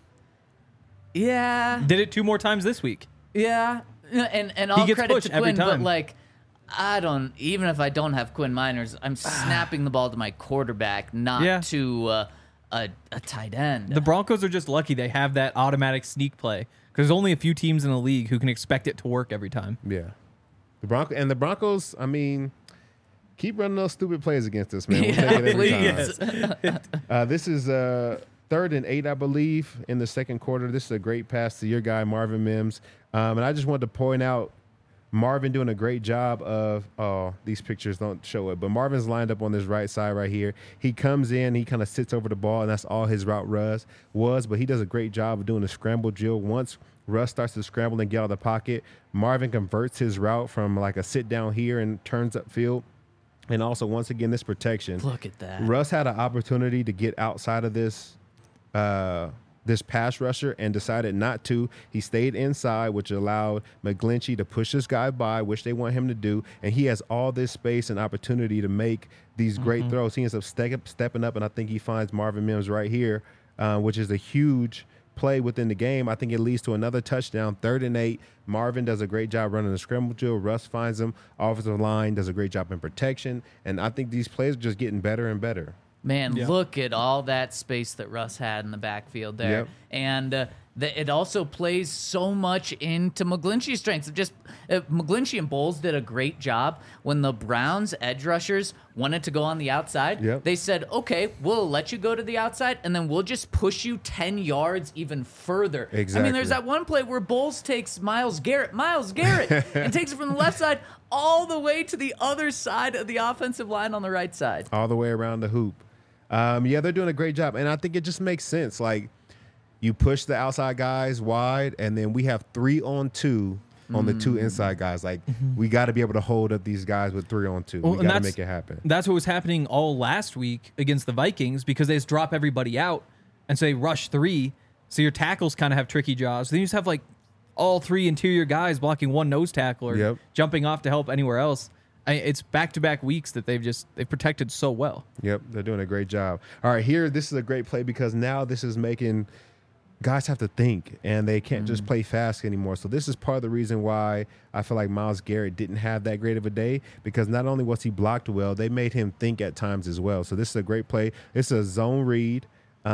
S2: Yeah.
S5: Did it two more times this week.
S2: Yeah. And and all
S5: gets
S2: credit
S5: pushed
S2: to
S5: every
S2: Quinn, but
S5: time.
S2: like I don't even if I don't have Quinn Miners, I'm snapping the ball to my quarterback, not
S5: Yeah.
S2: to uh, a a tight end.
S5: The Broncos are just lucky they have that automatic sneak play because there's only a few teams in the league who can expect it to work every time.
S4: Yeah. The Bronco and the Broncos, I mean, keep running those stupid plays against us, man. We'll
S2: Yeah,
S4: take it every
S2: please.
S4: time. Uh, this is uh, third and eight, I believe, in the second quarter. This is a great pass to your guy, Marvin Mims. Um, and I just wanted to point out Marvin doing a great job of, oh, these pictures don't show it, but Marvin's lined up on this right side right here. He comes in, he kind of sits over the ball, and that's all his route rush was, but he does a great job of doing the scramble drill. Once Russ starts to scramble and get out of the pocket, Marvin converts his route from like a sit down here and turns upfield. And also, once again, this protection.
S2: Look at that.
S4: Russ had an opportunity to get outside of this uh, this pass rusher and decided not to. He stayed inside, which allowed McGlinchey to push this guy by, which they want him to do. And he has all this space and opportunity to make these great throws. He ends up step, stepping up, and I think he finds Marvin Mims right here, uh, which is a huge play within the game. I think it leads to another touchdown, third and eight. Marvin does a great job running the scramble drill. Russ finds him. Offensive line does a great job in protection. And I think these plays are just getting better and better.
S2: Man,
S5: Yeah.
S2: look at all that space that Russ had in the backfield there.
S4: Yep.
S2: And uh, the, it also plays so much into McGlinchey's strengths. It just uh, McGlinchey and Bowles did a great job when the Browns edge rushers wanted to go on the outside.
S4: Yep.
S2: They said, okay, we'll let you go to the outside, and then we'll just push you ten yards even further. I
S4: Exactly.
S2: mean, there's that one play where Bowles takes Myles Garrett, Myles Garrett, and takes it from the left side all the way to the other side of the offensive line on the right side.
S4: All the way around the hoop. Um, yeah, they're doing a great job. And I think it just makes sense. Like, you push the outside guys wide, and then we have three on two on the two inside guys. Like, we got to be able to hold up these guys with three on two.
S5: Well,
S4: we
S5: and
S4: got to
S5: that's-
S4: make it happen.
S5: That's what was happening all last week against the Vikings because they just drop everybody out and say rush three. So your tackles kind of have tricky jobs. Then you just have like all three interior guys blocking one nose tackle or
S4: Yep.
S5: jumping off to help anywhere else. I, it's back-to-back weeks that they've just they've protected so well.
S4: Yep, they're doing a great job. All right, here, this is a great play because now this is making guys have to think, and they can't just play fast anymore. So this is part of the reason why I feel like Myles Garrett didn't have that great of a day because not only was he blocked well, they made him think at times as well. So this is a great play. It's a zone read,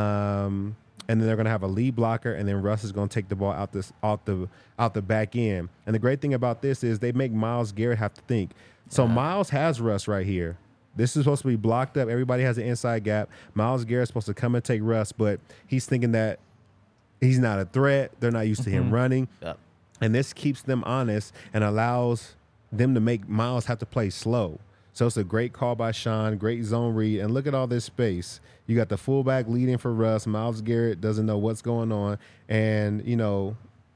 S4: um, and then they're going to have a lead blocker, and then Russ is going to take the ball out this out the out the back end. And the great thing about this is they make Myles Garrett have to think. So Myles has Russ right here. This is supposed to be blocked up. Everybody has an inside gap. Myles Garrett's supposed to come and take Russ, but he's thinking that he's not a threat. They're not used to him running.
S2: Yep.
S4: And this keeps them honest and allows them to make Myles have to play slow. So it's a great call by Sean, great zone read. And look at all this space. You got the fullback leading for Russ. Myles Garrett doesn't know what's going on. And, you know,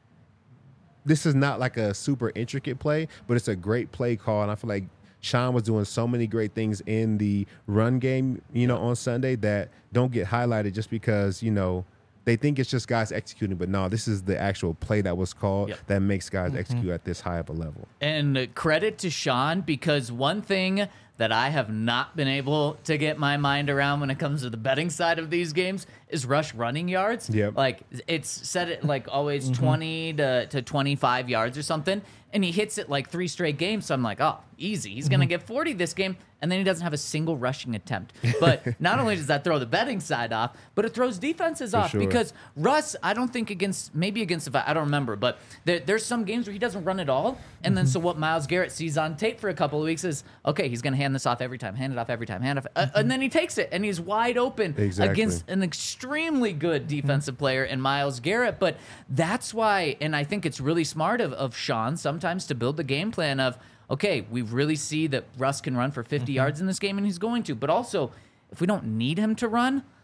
S4: this is not like a super intricate play, but it's a great play call. And I feel like Sean was doing so many great things in the run game, you know, on Sunday that don't get highlighted just because, you know, they think it's just guys executing. But no, this is the actual play that was called
S2: Yep.
S4: that makes guys execute at this high of a level.
S2: And credit to Sean because one thing that I have not been able to get my mind around when it comes to the betting side of these games is rush running yards.
S4: Yep.
S2: Like it's set at like always twenty to, to twenty-five yards or something. And he hits it like three straight games. So I'm like, oh, easy. He's going to get forty this game. And then he doesn't have a single rushing attempt. But not only does that throw the betting side off, but it throws defenses off
S4: sure.
S2: because Russ, I don't think against, maybe against, the I don't remember, but there, there's some games where he doesn't run at all. And then so what Myles Garrett sees on tape for a couple of weeks is, okay, he's going to hand this off every time, hand it off every time, hand it off. Uh, and then he takes it and he's wide open
S4: Exactly.
S2: against an extremely good defensive player in Myles Garrett. But that's why, and I think it's really smart of, of Sean sometimes to build the game plan of, okay, we really see that Russ can run for fifty yards in this game, and he's going to. But also, if we don't need him to run,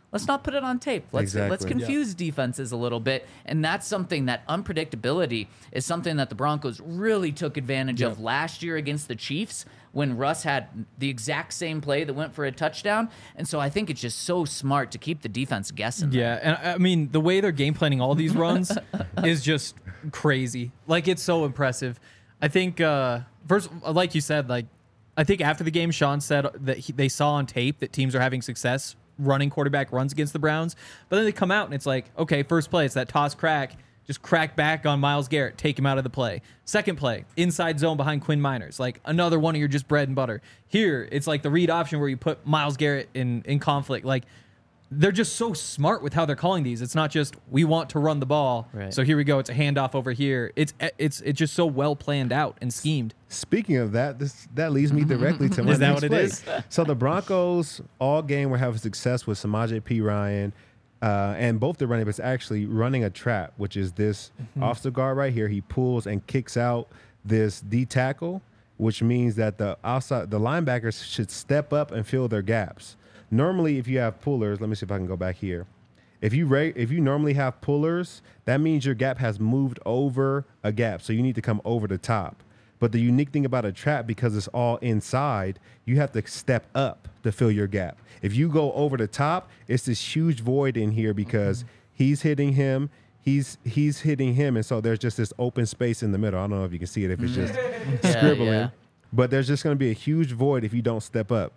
S2: let's not put it on tape. Let's let's
S4: Exactly.
S2: confuse defenses a little bit. And that's something that unpredictability is something that the Broncos really took advantage of last year against the Chiefs when Russ had the exact same play that went for a touchdown. And so I think it's just so smart to keep the defense guessing.
S5: Yeah, and I mean the way they're game planning all these runs is just crazy. Like it's so impressive. I think uh, first, like you said, like I think after the game, Sean said that he, they saw on tape that teams are having success running quarterback runs against the Browns, but then they come out and it's like, okay, first play, it's that toss crack. Just crack back on Myles Garrett, take him out of the play. Second play, inside zone behind Quinn Miners, like another one of your just bread and butter. Here, it's like the read option where you put Myles Garrett in, in conflict. Like, they're just so smart with how they're calling these. It's not just, we want to run the ball,
S2: Right.
S5: so here we go, it's a handoff over here. It's it's it's just so well planned out and schemed.
S4: Speaking of that, this that leads me directly to my
S5: Is that
S4: next
S5: what it
S4: play.
S5: is?
S4: So the Broncos all game were having success with Samaje P. Ryan, uh, and both the running backs actually running a trap, which is this
S5: Mm-hmm.
S4: offensive guard right here. He pulls and kicks out this D tackle, which means that the outside the linebackers should step up and fill their gaps. Normally, if you have pullers, let me see if I can go back here. If you ra- if you normally have pullers, that means your gap has moved over a gap, so you need to come over the top. But the unique thing about a trap, because it's all inside, you have to step up to fill your gap. If you go over the top, it's this huge void in here because he's hitting him, he's he's hitting him, and so there's just this open space in the middle. I don't know if you can see it if it's just
S2: Yeah,
S4: scribbling,
S2: yeah.
S4: but there's just going to be a huge void if you don't step up.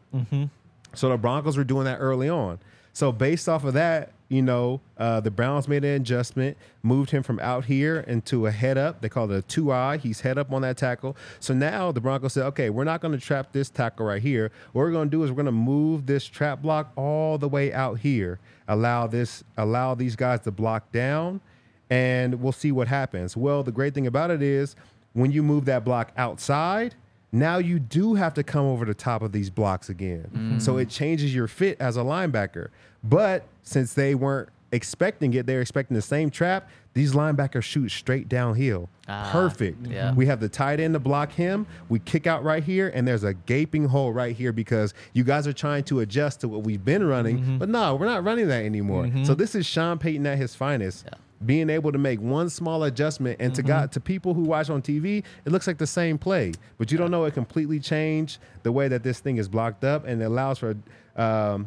S4: So the Broncos were doing that early on. So based off of that, you know, uh, the Browns made an adjustment, moved him from out here into a head up. They call it a two eye. He's head up on that tackle. So now the Broncos said, okay, we're not going to trap this tackle right here. What we're going to do is we're going to move this trap block all the way out here. Allow this, allow these guys to block down, and we'll see what happens. Well, the great thing about it is when you move that block outside, now you do have to come over the top of these blocks again. So it changes your fit as a linebacker. But since they weren't expecting it, they're expecting the same trap, these linebackers shoot straight downhill.
S2: Ah,
S4: Perfect.
S2: yeah.
S4: We have the tight end to block him. We kick out right here, and there's a gaping hole right here because you guys are trying to adjust to what we've been running. But no, we're not running that anymore. So this is Sean Payton at his finest.
S2: Yeah.
S4: Being able to make one small adjustment, and to God, to people who watch on T V, it looks like the same play, but you don't know it completely changed the way that this thing is blocked up, and it allows for um,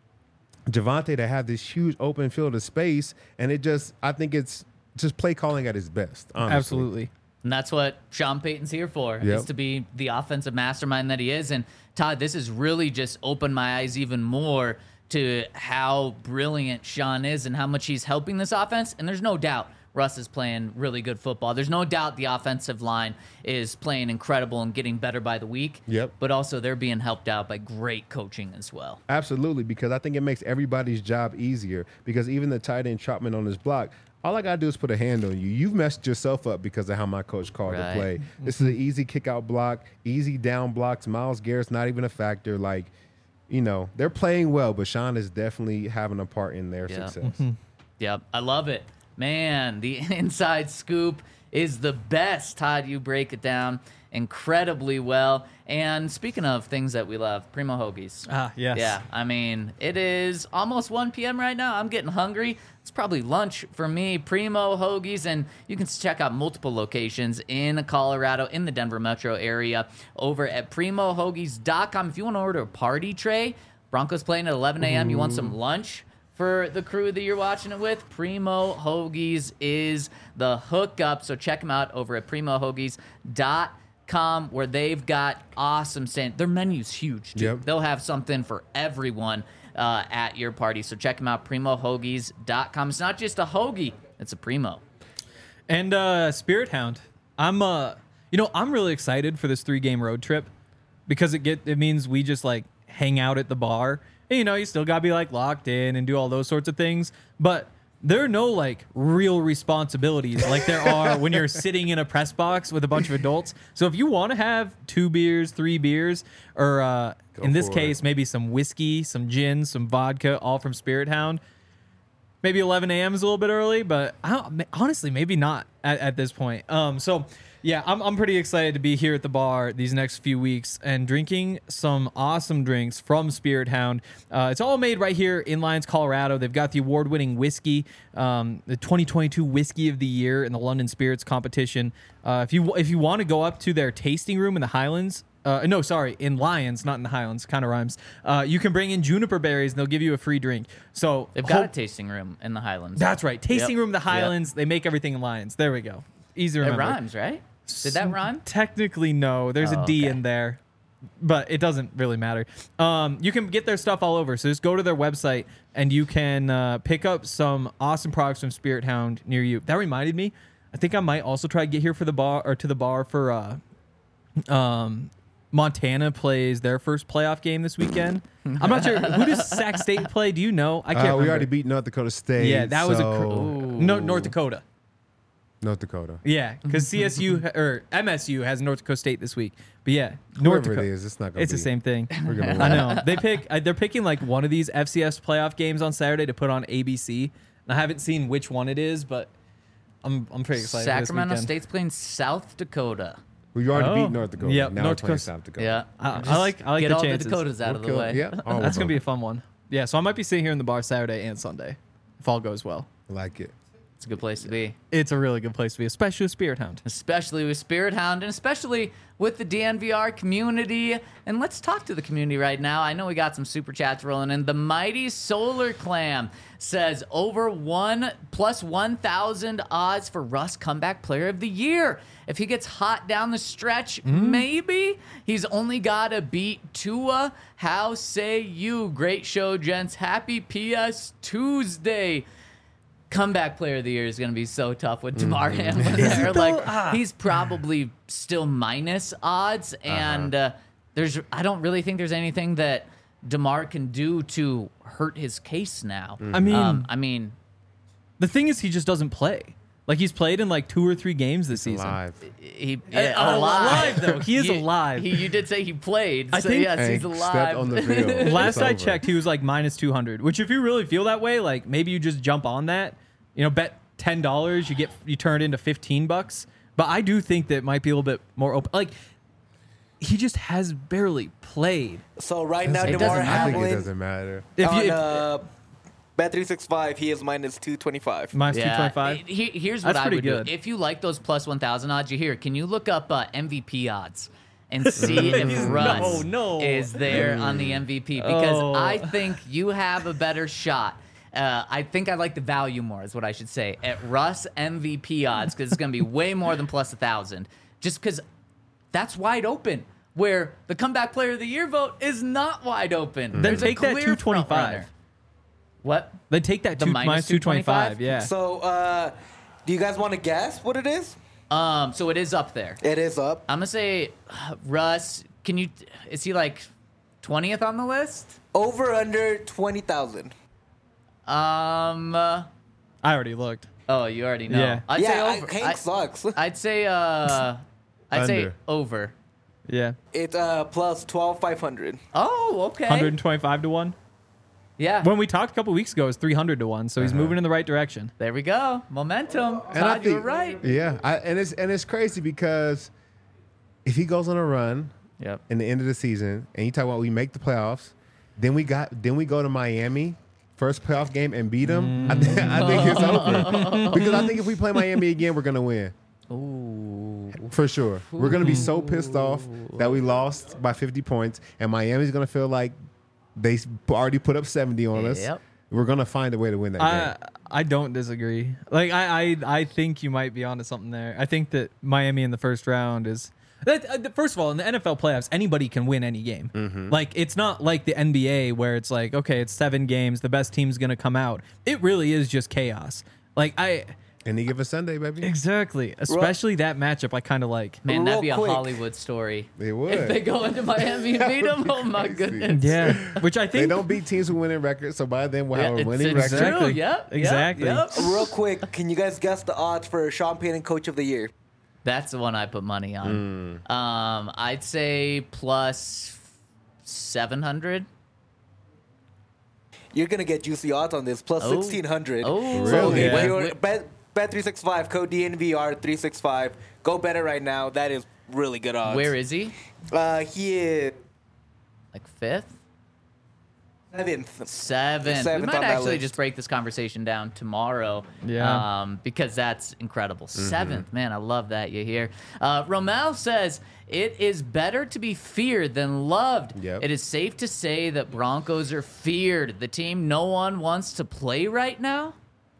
S4: Javonte to have this huge open field of space, and it just, I think it's just play calling at his best. Honestly.
S5: Absolutely.
S2: And that's what Sean Payton's here for,
S4: Yep.
S2: is to be the offensive mastermind that he is. And Todd, this has really just opened my eyes even more to how brilliant Sean is and how much he's helping this offense. And there's no doubt Russ is playing really good football. There's no doubt the offensive line is playing incredible and getting better by the week.
S4: Yep.
S2: But also they're being helped out by great coaching as well.
S4: Absolutely, because I think it makes everybody's job easier. Because even the tight end Trotman on his block, all I gotta do is put a hand on you. You've messed yourself up because of how my coach called
S2: Right.
S4: the play. This is an easy kick out block, easy down blocks. Myles Garrett's not even a factor. Like, you know, they're playing well, but Sean is definitely having a part in their
S2: Yeah.
S4: success.
S2: Yep, I love it. Man, the inside scoop is the best. Todd, you break it down incredibly well. And speaking of things that we love, Primo Hoagies.
S5: Ah, yes.
S2: Yeah, I mean, it is almost one p.m. right now. I'm getting hungry. It's probably lunch for me. Primo Hoagies, and you can check out multiple locations in Colorado, in the Denver metro area, over at primo hoagies dot com. If you want to order a party tray, Broncos playing at eleven a.m., you want some lunch for the crew that you're watching it with, Primo Hoagies is the hookup. So check them out over at primo hoagies dot com, where they've got awesome stand. Their menu's huge, too.
S4: Yep.
S2: They'll have something for everyone uh, at your party. So check them out, primo hoagies dot com. It's not just a hoagie, it's a Primo.
S5: And uh, Spirit Hound, I'm uh, you know, I'm really excited for this three game road trip because it get it means we just like hang out at the bar. And, you know, you still gotta be like locked in and do all those sorts of things, but there are no like real responsibilities like there are when you're sitting in a press box with a bunch of adults. So if you want to have two beers, three beers, or uh, in this
S4: for
S5: case,
S4: it.
S5: maybe some whiskey, some gin, some vodka, all from Spirit Hound. Maybe eleven a.m. is a little bit early, but I don't, honestly, maybe not at, at this point. Um, so Yeah, I'm, I'm pretty excited to be here at the bar these next few weeks and drinking some awesome drinks from Spirit Hound. Uh, it's all made right here in Lyons, Colorado. They've got the award-winning whiskey, um, the twenty twenty-two Whiskey of the Year in the London Spirits competition. Uh, if you if you want to go up to their tasting room in the Highlands, uh, no, sorry, in Lyons, not in the Highlands, kind of rhymes. Uh, you can bring in juniper berries and they'll give you a free drink. So
S2: They've got
S5: hope-
S2: a tasting room in the Highlands.
S5: That's right, tasting
S2: Yep.
S5: room in the
S2: Yep.
S5: Highlands. They make everything in Lyons. There we go. Easy to
S2: It
S5: remember.
S2: rhymes, right? Did that rhyme?
S5: Technically, no. There's
S2: Oh,
S5: a D
S2: okay.
S5: in there, but it doesn't really matter. Um, you can get their stuff all over. So just go to their website and you can uh, pick up some awesome products from Spirit Hound near you. That reminded me. I think I might also try to get here for the bar or to the bar for uh, um, Montana plays their first playoff game this weekend. I'm not sure. Who does Sac State play? Do you know? I can't
S4: Uh,
S5: remember.
S4: we already beat North Dakota State.
S5: Yeah, that was a cr-
S4: so-
S5: no North Dakota.
S4: North Dakota.
S5: Yeah, because C S U or M S U has North Dakota State this week. But yeah, North
S4: Whoever
S5: Dakota.
S4: it is, it's not gonna
S5: It's
S4: be.
S5: the same thing.
S4: We're gonna win.
S5: I know. They pick. uh, They're picking like one of these F C S playoff games on Saturday to put on A B C. And I haven't seen which one it is, but I'm I'm pretty excited.
S2: Sacramento
S5: for this weekend.
S2: State's playing South Dakota.
S4: We already
S5: Oh.
S4: beat North Dakota.
S5: Yep,
S4: now
S5: North
S4: we're playing
S5: Dakota-
S4: South Dakota.
S2: Yeah.
S5: I,
S2: Just
S5: I like I like
S2: get
S5: the
S2: all
S5: chances.
S2: the Dakotas out
S4: We're
S2: of the
S4: kill-
S2: way.
S4: Yeah, all
S5: That's
S4: of
S5: gonna be
S4: them.
S5: a fun one. Yeah, so I might be sitting here in the bar Saturday and Sunday if all goes well.
S4: I like it.
S2: It's a good place to be.
S5: It's a really good place to be, especially with Spirit Hound.
S2: Especially with Spirit Hound and especially with the D N V R community. And let's talk to the community right now. I know we got some super chats rolling in. The Mighty Solar Clam says over one plus one thousand odds for Russ comeback player of the year. If he gets hot down the stretch, maybe he's only got to beat Tua. How say you? Great show, gents. Happy P S Tuesday. Comeback player of the year is going to be so tough with DeMar Hamlin there. Like he's probably still minus odds, and uh, there's I don't really think there's anything that DeMar can do to hurt his case now.
S5: I mean,
S2: um, I mean,
S5: the thing is, he just doesn't play. Like he's played in like two or three games this season.
S4: Live.
S2: he
S5: Uh,
S2: alive.
S5: alive, though. He is
S2: You-
S5: alive.
S2: He, you did say he played.
S5: I
S2: so
S5: think-
S2: yes,
S4: Hey,
S2: he's
S4: stepped
S2: alive.
S4: on the field.
S5: Last
S4: It's
S5: I
S4: over.
S5: checked, he was like minus two hundred. Which, if you really feel that way, like maybe you just jump on that. You know, bet ten dollars, you get you turn it into fifteen bucks. But I do think that it might be a little bit more open. Like he just has barely played.
S6: So right now,
S2: It
S6: DeMar
S2: doesn't-
S4: I think it
S6: Hamlin
S4: doesn't matter.
S5: If
S6: on
S5: you if,
S6: uh, Bet three sixty-five, he is minus two twenty-five.
S5: minus two
S2: Yeah,
S5: twenty five.
S2: it- he- here's what
S5: That's
S2: I
S5: pretty
S2: would
S5: good.
S2: do. If you like those plus one thousand odds you hear, can you look up uh, M V P odds and see if Russ
S5: no.
S2: is there on the M V P? Because
S5: Oh.
S2: I think you have a better shot. Uh, I think I like the value more, is what I should say, at Russ M V P odds, because it's going to be way more than plus a thousand. Just because that's wide open. Where the comeback player of the year vote is not wide open.
S5: Then
S2: There's a
S5: take that
S2: clear
S5: two twenty-five.
S2: front runner. What?
S5: Then take that
S2: The
S5: two,
S2: minus
S5: minus two twenty five.
S2: two twenty-five?
S5: Yeah.
S6: So, uh, do you guys want to guess what it is?
S2: Um, so it is up there.
S6: It is up.
S2: I'm gonna say, uh, Russ. Can you? Is he like twentieth on the list?
S6: Over under twenty thousand.
S2: Um. uh,
S5: I already looked.
S2: oh, you already know.
S5: Yeah.
S2: I'd
S6: Yeah,
S2: say
S6: I-
S2: over.
S6: Hank
S2: I,
S6: sucks.
S2: I'd say. Uh. I'd say
S4: Under.
S2: over.
S5: Yeah.
S6: It's uh, plus twelve five hundred.
S2: Oh, okay.
S5: one hundred twenty-five to one.
S2: Yeah.
S5: When we talked a couple weeks ago, it was three hundred to one. So he's moving in the right direction.
S2: there we go. Momentum.
S4: And I
S2: Todd, you were
S4: think-
S2: right.
S4: Yeah, I, and it's and it's crazy because if he goes on a run
S2: Yep.
S4: in the end of the season, and you talk about we make the playoffs, then we got then we go to Miami, first playoff game and beat them. I, think I think it's over because I think if we play Miami again, we're gonna win.
S2: Ooh.
S4: For sure. We're going to be so pissed off that we lost by fifty points, and Miami's going to feel like they s- already put up seventy on us.
S2: Yep.
S4: We're going to find a way to win that
S5: I
S4: game.
S5: I don't disagree. Like I, I I think you might be onto something there. I think that Miami in the first round is. That, uh, first of all, in the N F L playoffs, anybody can win any game.
S4: Mm-hmm.
S5: Like it's not like the N B A where it's like, okay, it's seven games, the best team's gonna come out. It really is just chaos. Like I
S4: Any given Sunday, baby.
S5: exactly, especially that matchup. I kind of like.
S2: Man,
S6: Real
S2: that'd be a
S6: quick.
S2: Hollywood story.
S4: They would.
S2: If they go into Miami and beat them, oh my goodness.
S5: Yeah, which I
S4: They
S5: think
S4: don't beat teams with winning records, so by then we'll
S2: Yeah,
S4: have a
S2: it's-
S4: winning
S2: it's
S4: record.
S2: true.
S5: Exactly.
S2: Yep. yep,
S5: Exactly.
S2: yep.
S6: Real quick, can you guys guess the odds for Sean Payton Coach of the Year?
S2: That's the one I put money on.
S4: Hmm.
S2: Um, I'd say plus seven hundred.
S6: You're gonna get juicy odds on this, plus
S2: Oh.
S6: sixteen hundred.
S2: Oh,
S6: So
S4: Really?
S6: if
S5: Yeah.
S6: you're
S2: Wait,
S6: bet bet three six five, code D N V R three six five, Go better right now. That is really good odds.
S2: Where is he?
S6: Uh, he is
S2: Like fifth?
S6: seventh.
S2: Seventh. We
S6: Seventh
S2: might
S6: on that
S2: actually
S6: list.
S2: just break this conversation down tomorrow.
S5: Yeah.
S2: Um, because that's incredible. Seventh. Man, I love that you hear. Uh, Romel says, it is better to be feared than loved.
S4: Yep.
S2: It is safe to say that Broncos are feared. The team no one wants to play right now.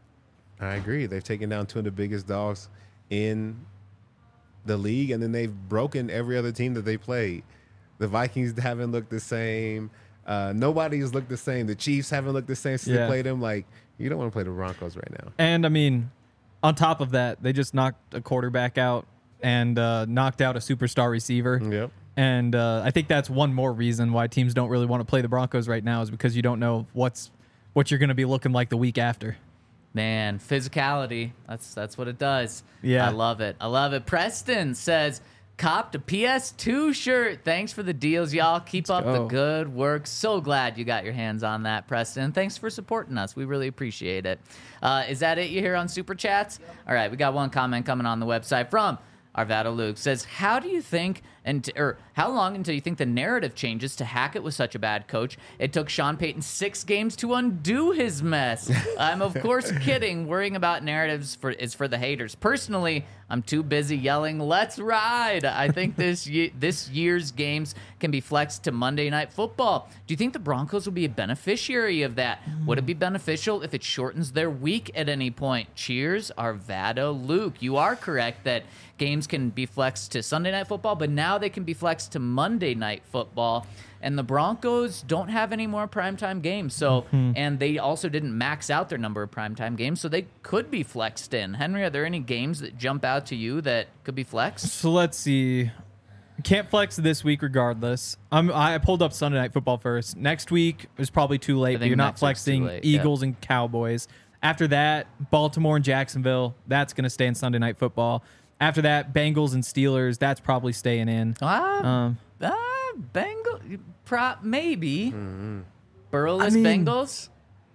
S4: I agree. They've taken down two of the biggest dogs in the league, and then they've broken every other team that they played. The Vikings haven't looked the same. Uh, nobody has looked the same. The Chiefs haven't looked the same since
S5: Yeah.
S4: they played them. Like, you don't want to play the Broncos right now.
S5: And I mean, on top of that, they just knocked a quarterback out and uh, knocked out a superstar receiver.
S4: Yep.
S5: And uh, I think that's one more reason why teams don't really want to play the Broncos right now is because you don't know what's what you're going to be looking like the week after.
S2: Man, physicality. That's that's what it does.
S5: Yeah.
S2: I love it. I love it. Preston says, copped a P S two shirt. Thanks for the deals, y'all. Keep up the
S5: go.
S2: good work. So glad you got your hands on that, Preston. Thanks for supporting us. We really appreciate it. Uh, is that it you hear on Super Chats? All right, we got one comment coming on the website from Arvado Luke. Says, how do you think, and or how long until you think the narrative changes to Hackett was such a bad coach? It took Sean Payton six games to undo his mess. I'm of course kidding. Worrying about narratives for is for the haters. Personally, I'm too busy yelling, "Let's ride!" I think this ye- this year's games can be flexed to Monday Night Football. Do you think the Broncos will be a beneficiary of that? Would it be beneficial if it shortens their week at any point? Cheers, Arvado Luke. You are correct that games can be flexed to Sunday Night Football, but now they can be flexed to Monday Night Football. And the Broncos don't have any more primetime games. So, and they also didn't max out their number of primetime games, so they could be flexed in. Henry, are there any games that jump out to you that could be flexed?
S5: So let's see. Can't flex this week regardless. I'm, I pulled up Sunday Night Football first. Next week is probably too late.
S2: I
S5: But
S2: think
S5: you're not
S2: next week's too
S5: flexing
S2: late, yeah.
S5: Eagles and Cowboys. After that, Baltimore and Jacksonville. That's going to stay in Sunday Night Football. After that, Bengals and Steelers. That's probably staying in.
S2: Ah,
S5: Um,
S2: ah Bengal, pro, maybe. Burrowless
S5: I mean-
S2: Bengals?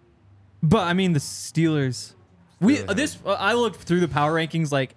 S5: But I mean, the Steelers. We uh, this uh, I looked through the power rankings like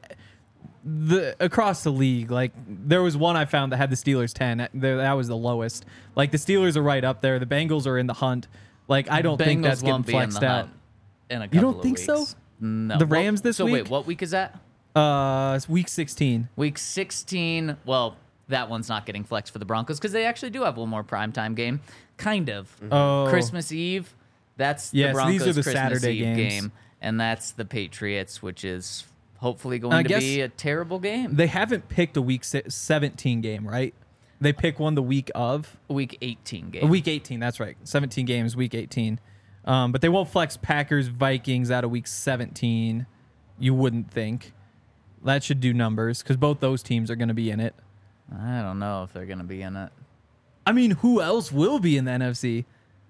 S5: the across the league. Like there was one I found that had the Steelers ten. That, that was the lowest. Like the Steelers are right up there. The Bengals are in the hunt. Like I don't think
S2: Bengals
S5: that's getting
S2: won't be in
S5: flexed
S2: the
S5: out.
S2: hunt in a couple
S5: You don't
S2: of
S5: think so?
S2: weeks. No.
S5: The
S2: Well,
S5: Rams this
S2: so wait,
S5: week?
S2: what week is that?
S5: Uh, it's week sixteen.
S2: Week sixteen. Well, that one's not getting flexed for the Broncos because they actually do have one more primetime game. Kind of.
S5: Oh,
S2: Christmas Eve. That's
S5: Yes,
S2: the Broncos'
S5: these are the
S2: Christmas
S5: Saturday
S2: Eve
S5: games.
S2: game, and that's the Patriots, which is hopefully going
S5: I
S2: to
S5: guess
S2: be a terrible game.
S5: They haven't picked a week si- seventeen game, right? They pick one the week of.
S2: Week eighteen game.
S5: Uh, Week eighteen, that's right. seventeen games, week eighteen. Um, but they won't flex Packers, Vikings out of week seventeen. You wouldn't think. That should do numbers because both those teams are going to be in it.
S2: I don't know if they're going to be in it.
S5: I mean, who else will be in the N F C?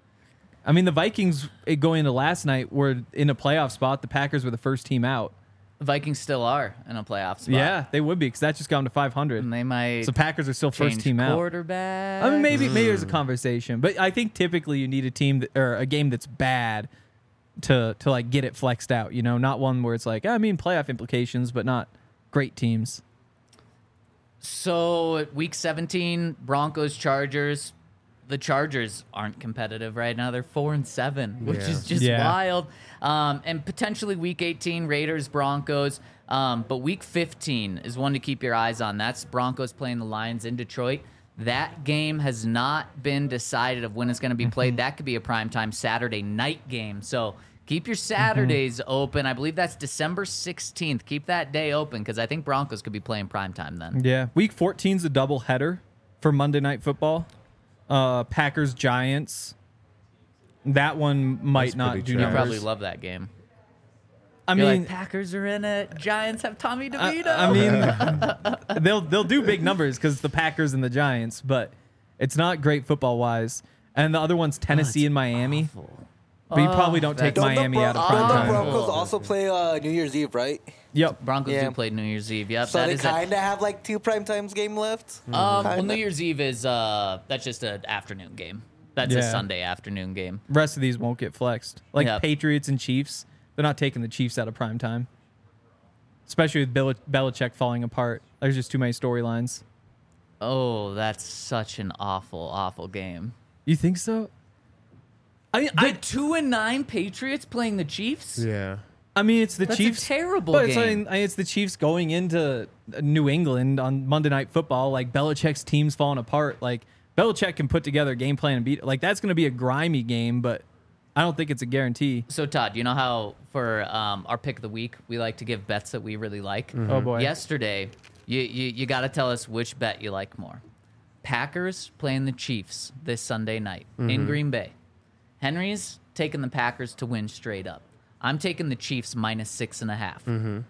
S5: I mean, the Vikings eh, going into last night were in a playoff spot. The Packers were the first team out.
S2: The Vikings still are in a playoff spot.
S5: Yeah, they would be because that just got them to five hundred.
S2: And they might
S5: So Packers are still first
S2: change
S5: team out.
S2: quarterback.
S5: I mean, maybe maybe there's a conversation, but I think typically you need a team that, or a game that's bad to to like get it flexed out. You know, not one where it's like I mean playoff implications, but not great teams.
S2: So at week seventeen, Broncos, Chargers. The Chargers aren't competitive right now. They're four and seven, which
S4: Yeah.
S2: is just
S5: Yeah.
S2: wild. Um, and potentially week eighteen, Raiders, Broncos. Um, but week fifteen is one to keep your eyes on. That's Broncos playing the Lions in Detroit. That game has not been decided of when it's going to be played. That could be a primetime Saturday night game. So keep your Saturdays open. I believe that's December sixteenth. Keep that day open because I think Broncos could be playing primetime then.
S5: Yeah, week fourteen is a double header for Monday Night Football. Uh, Packers Giants. That one might
S4: That's
S5: not
S4: pretty
S5: do
S2: You
S4: trash.
S5: numbers.
S2: probably love that game.
S5: I
S2: You're
S5: mean,
S2: like, Packers are in it. Giants have Tommy DeVito.
S5: I, I mean, they'll they'll do big numbers because the Packers and the Giants, but it's not great football wise. And the other one's Tennessee and Miami. But you probably don't take
S2: that's-
S5: Miami
S6: Don't
S5: out
S6: the,
S5: of
S6: Bron-
S5: prime
S6: don't the
S5: time.
S6: Broncos also play uh, New Year's Eve, right?
S5: Yep.
S2: Broncos
S6: Yeah.
S2: do play New Year's Eve. Yep.
S6: So
S2: that
S6: they
S2: is a-
S6: kind of have like two primetimes game left.
S2: um, well,
S6: kinda.
S2: New Year's Eve is uh, that's just an afternoon game. That's a
S5: Yeah.
S2: Sunday afternoon game.
S5: Rest of these won't get flexed. Like
S2: Yep.
S5: Patriots and Chiefs, they're not taking the Chiefs out of prime time. especially with Bel- Belichick falling apart. There's just too many storylines.
S2: Oh, that's such an awful, awful game.
S5: You think so? I mean,
S2: The
S5: I,
S2: two and nine Patriots playing the Chiefs.
S4: Yeah.
S5: I mean, it's the
S2: That's a
S5: Chiefs.
S2: terrible
S5: but it's,
S2: game.
S5: like- it's the Chiefs going into New England on Monday Night Football. Like Belichick's team's falling apart. Like Belichick can put together a game plan and beat. Like that's going to be a grimy game, but I don't think it's a guarantee.
S2: So Todd, you know how for um, our pick of the week we like to give bets that we really like.
S5: Oh boy.
S2: Yesterday, you you, you got to tell us which bet you like more. Packers playing the Chiefs this Sunday night in Green Bay. Henry's taking the Packers to win straight up. I'm taking the Chiefs minus six and a half.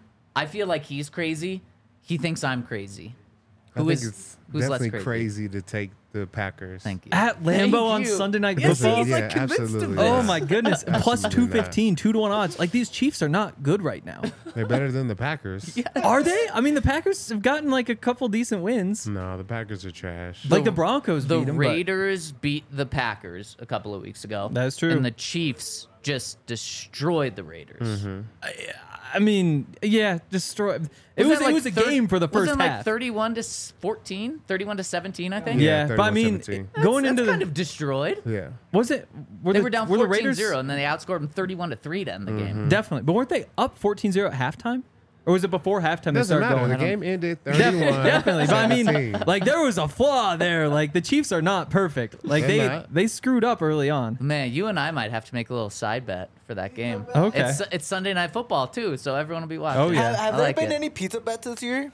S2: I feel like he's crazy. He thinks I'm crazy.
S4: I
S2: Who
S4: think
S2: is
S4: it's
S2: who's less
S4: definitely
S2: crazy?
S4: crazy to take the Packers.
S2: Thank you.
S5: At
S2: Thank
S5: Lambeau on
S2: you.
S5: Sunday Night
S2: Yes,
S5: Football.
S2: he's
S4: Yeah,
S2: like convinced of
S4: absolutely.
S2: this.
S5: Oh my goodness! Plus two
S4: Absolutely not.
S5: fifteen, two to one odds. Like these Chiefs are not good right now.
S4: They're better than the Packers.
S5: Are they? I mean, the Packers have gotten like a couple decent wins.
S4: No, the Packers are trash.
S5: Like the Broncos
S2: The
S5: beat them.
S2: Raiders beat the Packers a couple of weeks ago.
S5: That's true.
S2: And the Chiefs just destroyed the Raiders.
S4: Mm-hmm.
S5: I mean, yeah, destroy. It was,
S2: like
S5: it was a
S2: thir-
S5: game for the first
S2: wasn't it
S5: half.
S2: like thirty-one to fourteen, thirty-one to seventeen, I think.
S5: yeah,
S4: Yeah,
S5: but I mean,
S4: thirty-one seventeen.
S5: going
S2: That's
S5: into
S2: kind
S5: the
S2: of destroyed.
S4: Yeah.
S5: was it were
S2: They
S5: the,
S2: were down
S5: were the
S2: fourteen
S5: Raiders
S2: zero, and then they outscored them thirty-one to three to end the game.
S5: definitely, but weren't they up fourteen zero at halftime, or was it before halftime they
S4: Doesn't
S5: started
S4: matter.
S5: going?
S4: The
S5: I don't-
S4: game ended
S5: Definitely,
S4: thirty-one.
S5: definitely. But I mean,
S4: seventeen.
S5: like there was a flaw there. Like the Chiefs are not perfect. Like
S4: They're
S5: they
S4: not.
S5: they screwed up early on.
S2: Man, you and I might have to make a little side bet for that game.
S5: Okay.
S2: It's it's Sunday Night Football too, so everyone will be watching.
S5: Oh, yeah.
S6: Have, have
S2: I
S6: there
S2: like
S6: been
S2: it.
S6: any pizza bets this year?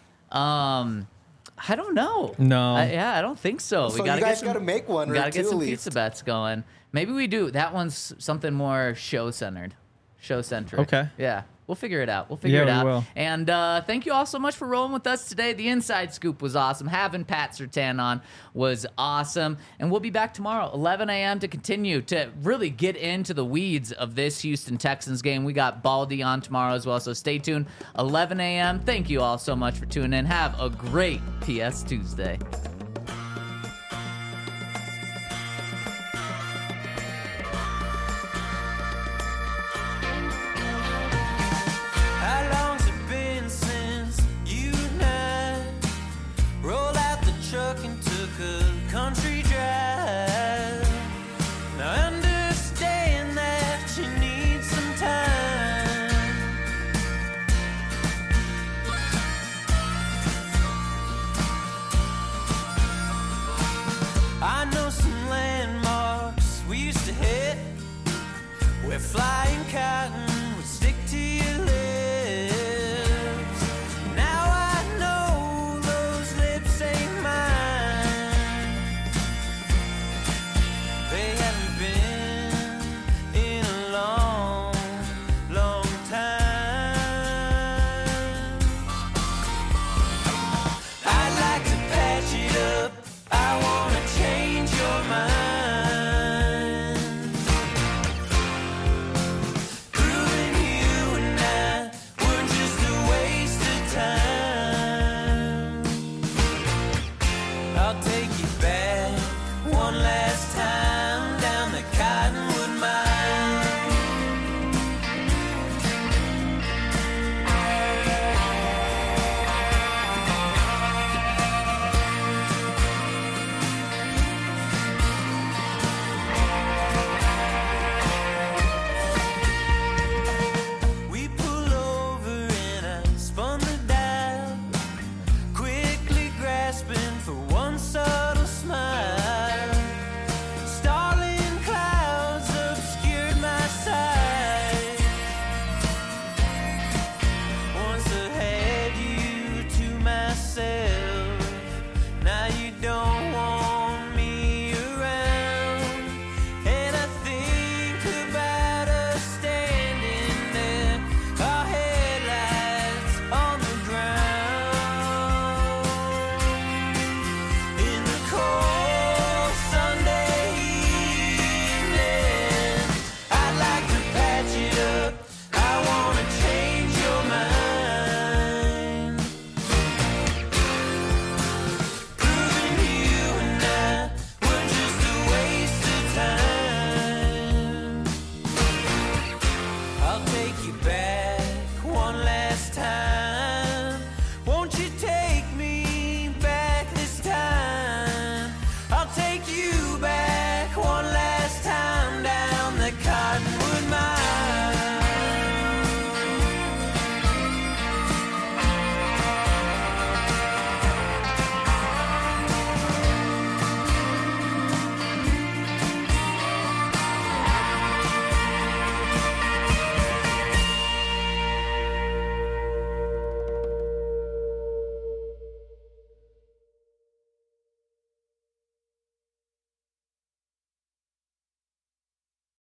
S2: Um, I don't know.
S5: No.
S2: I, yeah, I don't think so.
S6: So
S2: we gotta
S6: you guys
S2: get some,
S6: gotta make one
S2: We
S6: or
S2: gotta get
S6: two
S2: some
S6: at
S2: pizza
S6: least.
S2: bets going. Maybe we do. That one's something more show centered, show centric.
S5: Okay.
S2: Yeah. We'll figure it out. We'll figure
S5: Yeah,
S2: it
S5: we
S2: out.
S5: will.
S2: And uh, thank you all so much for rolling with us today. The Inside Scoop was awesome. Having Pat Surtain on was awesome. And we'll be back tomorrow, eleven a.m., to continue to really get into the weeds of this Houston Texans game. We got Baldy on tomorrow as well, so stay tuned. eleven a.m. Thank you all so much for tuning in. Have a great P S Tuesday.
S1: How long's it been since you and I rolled out the truck and took a country drive? Now I understand that you need some time. I know some landmarks we used to hit where flying cotton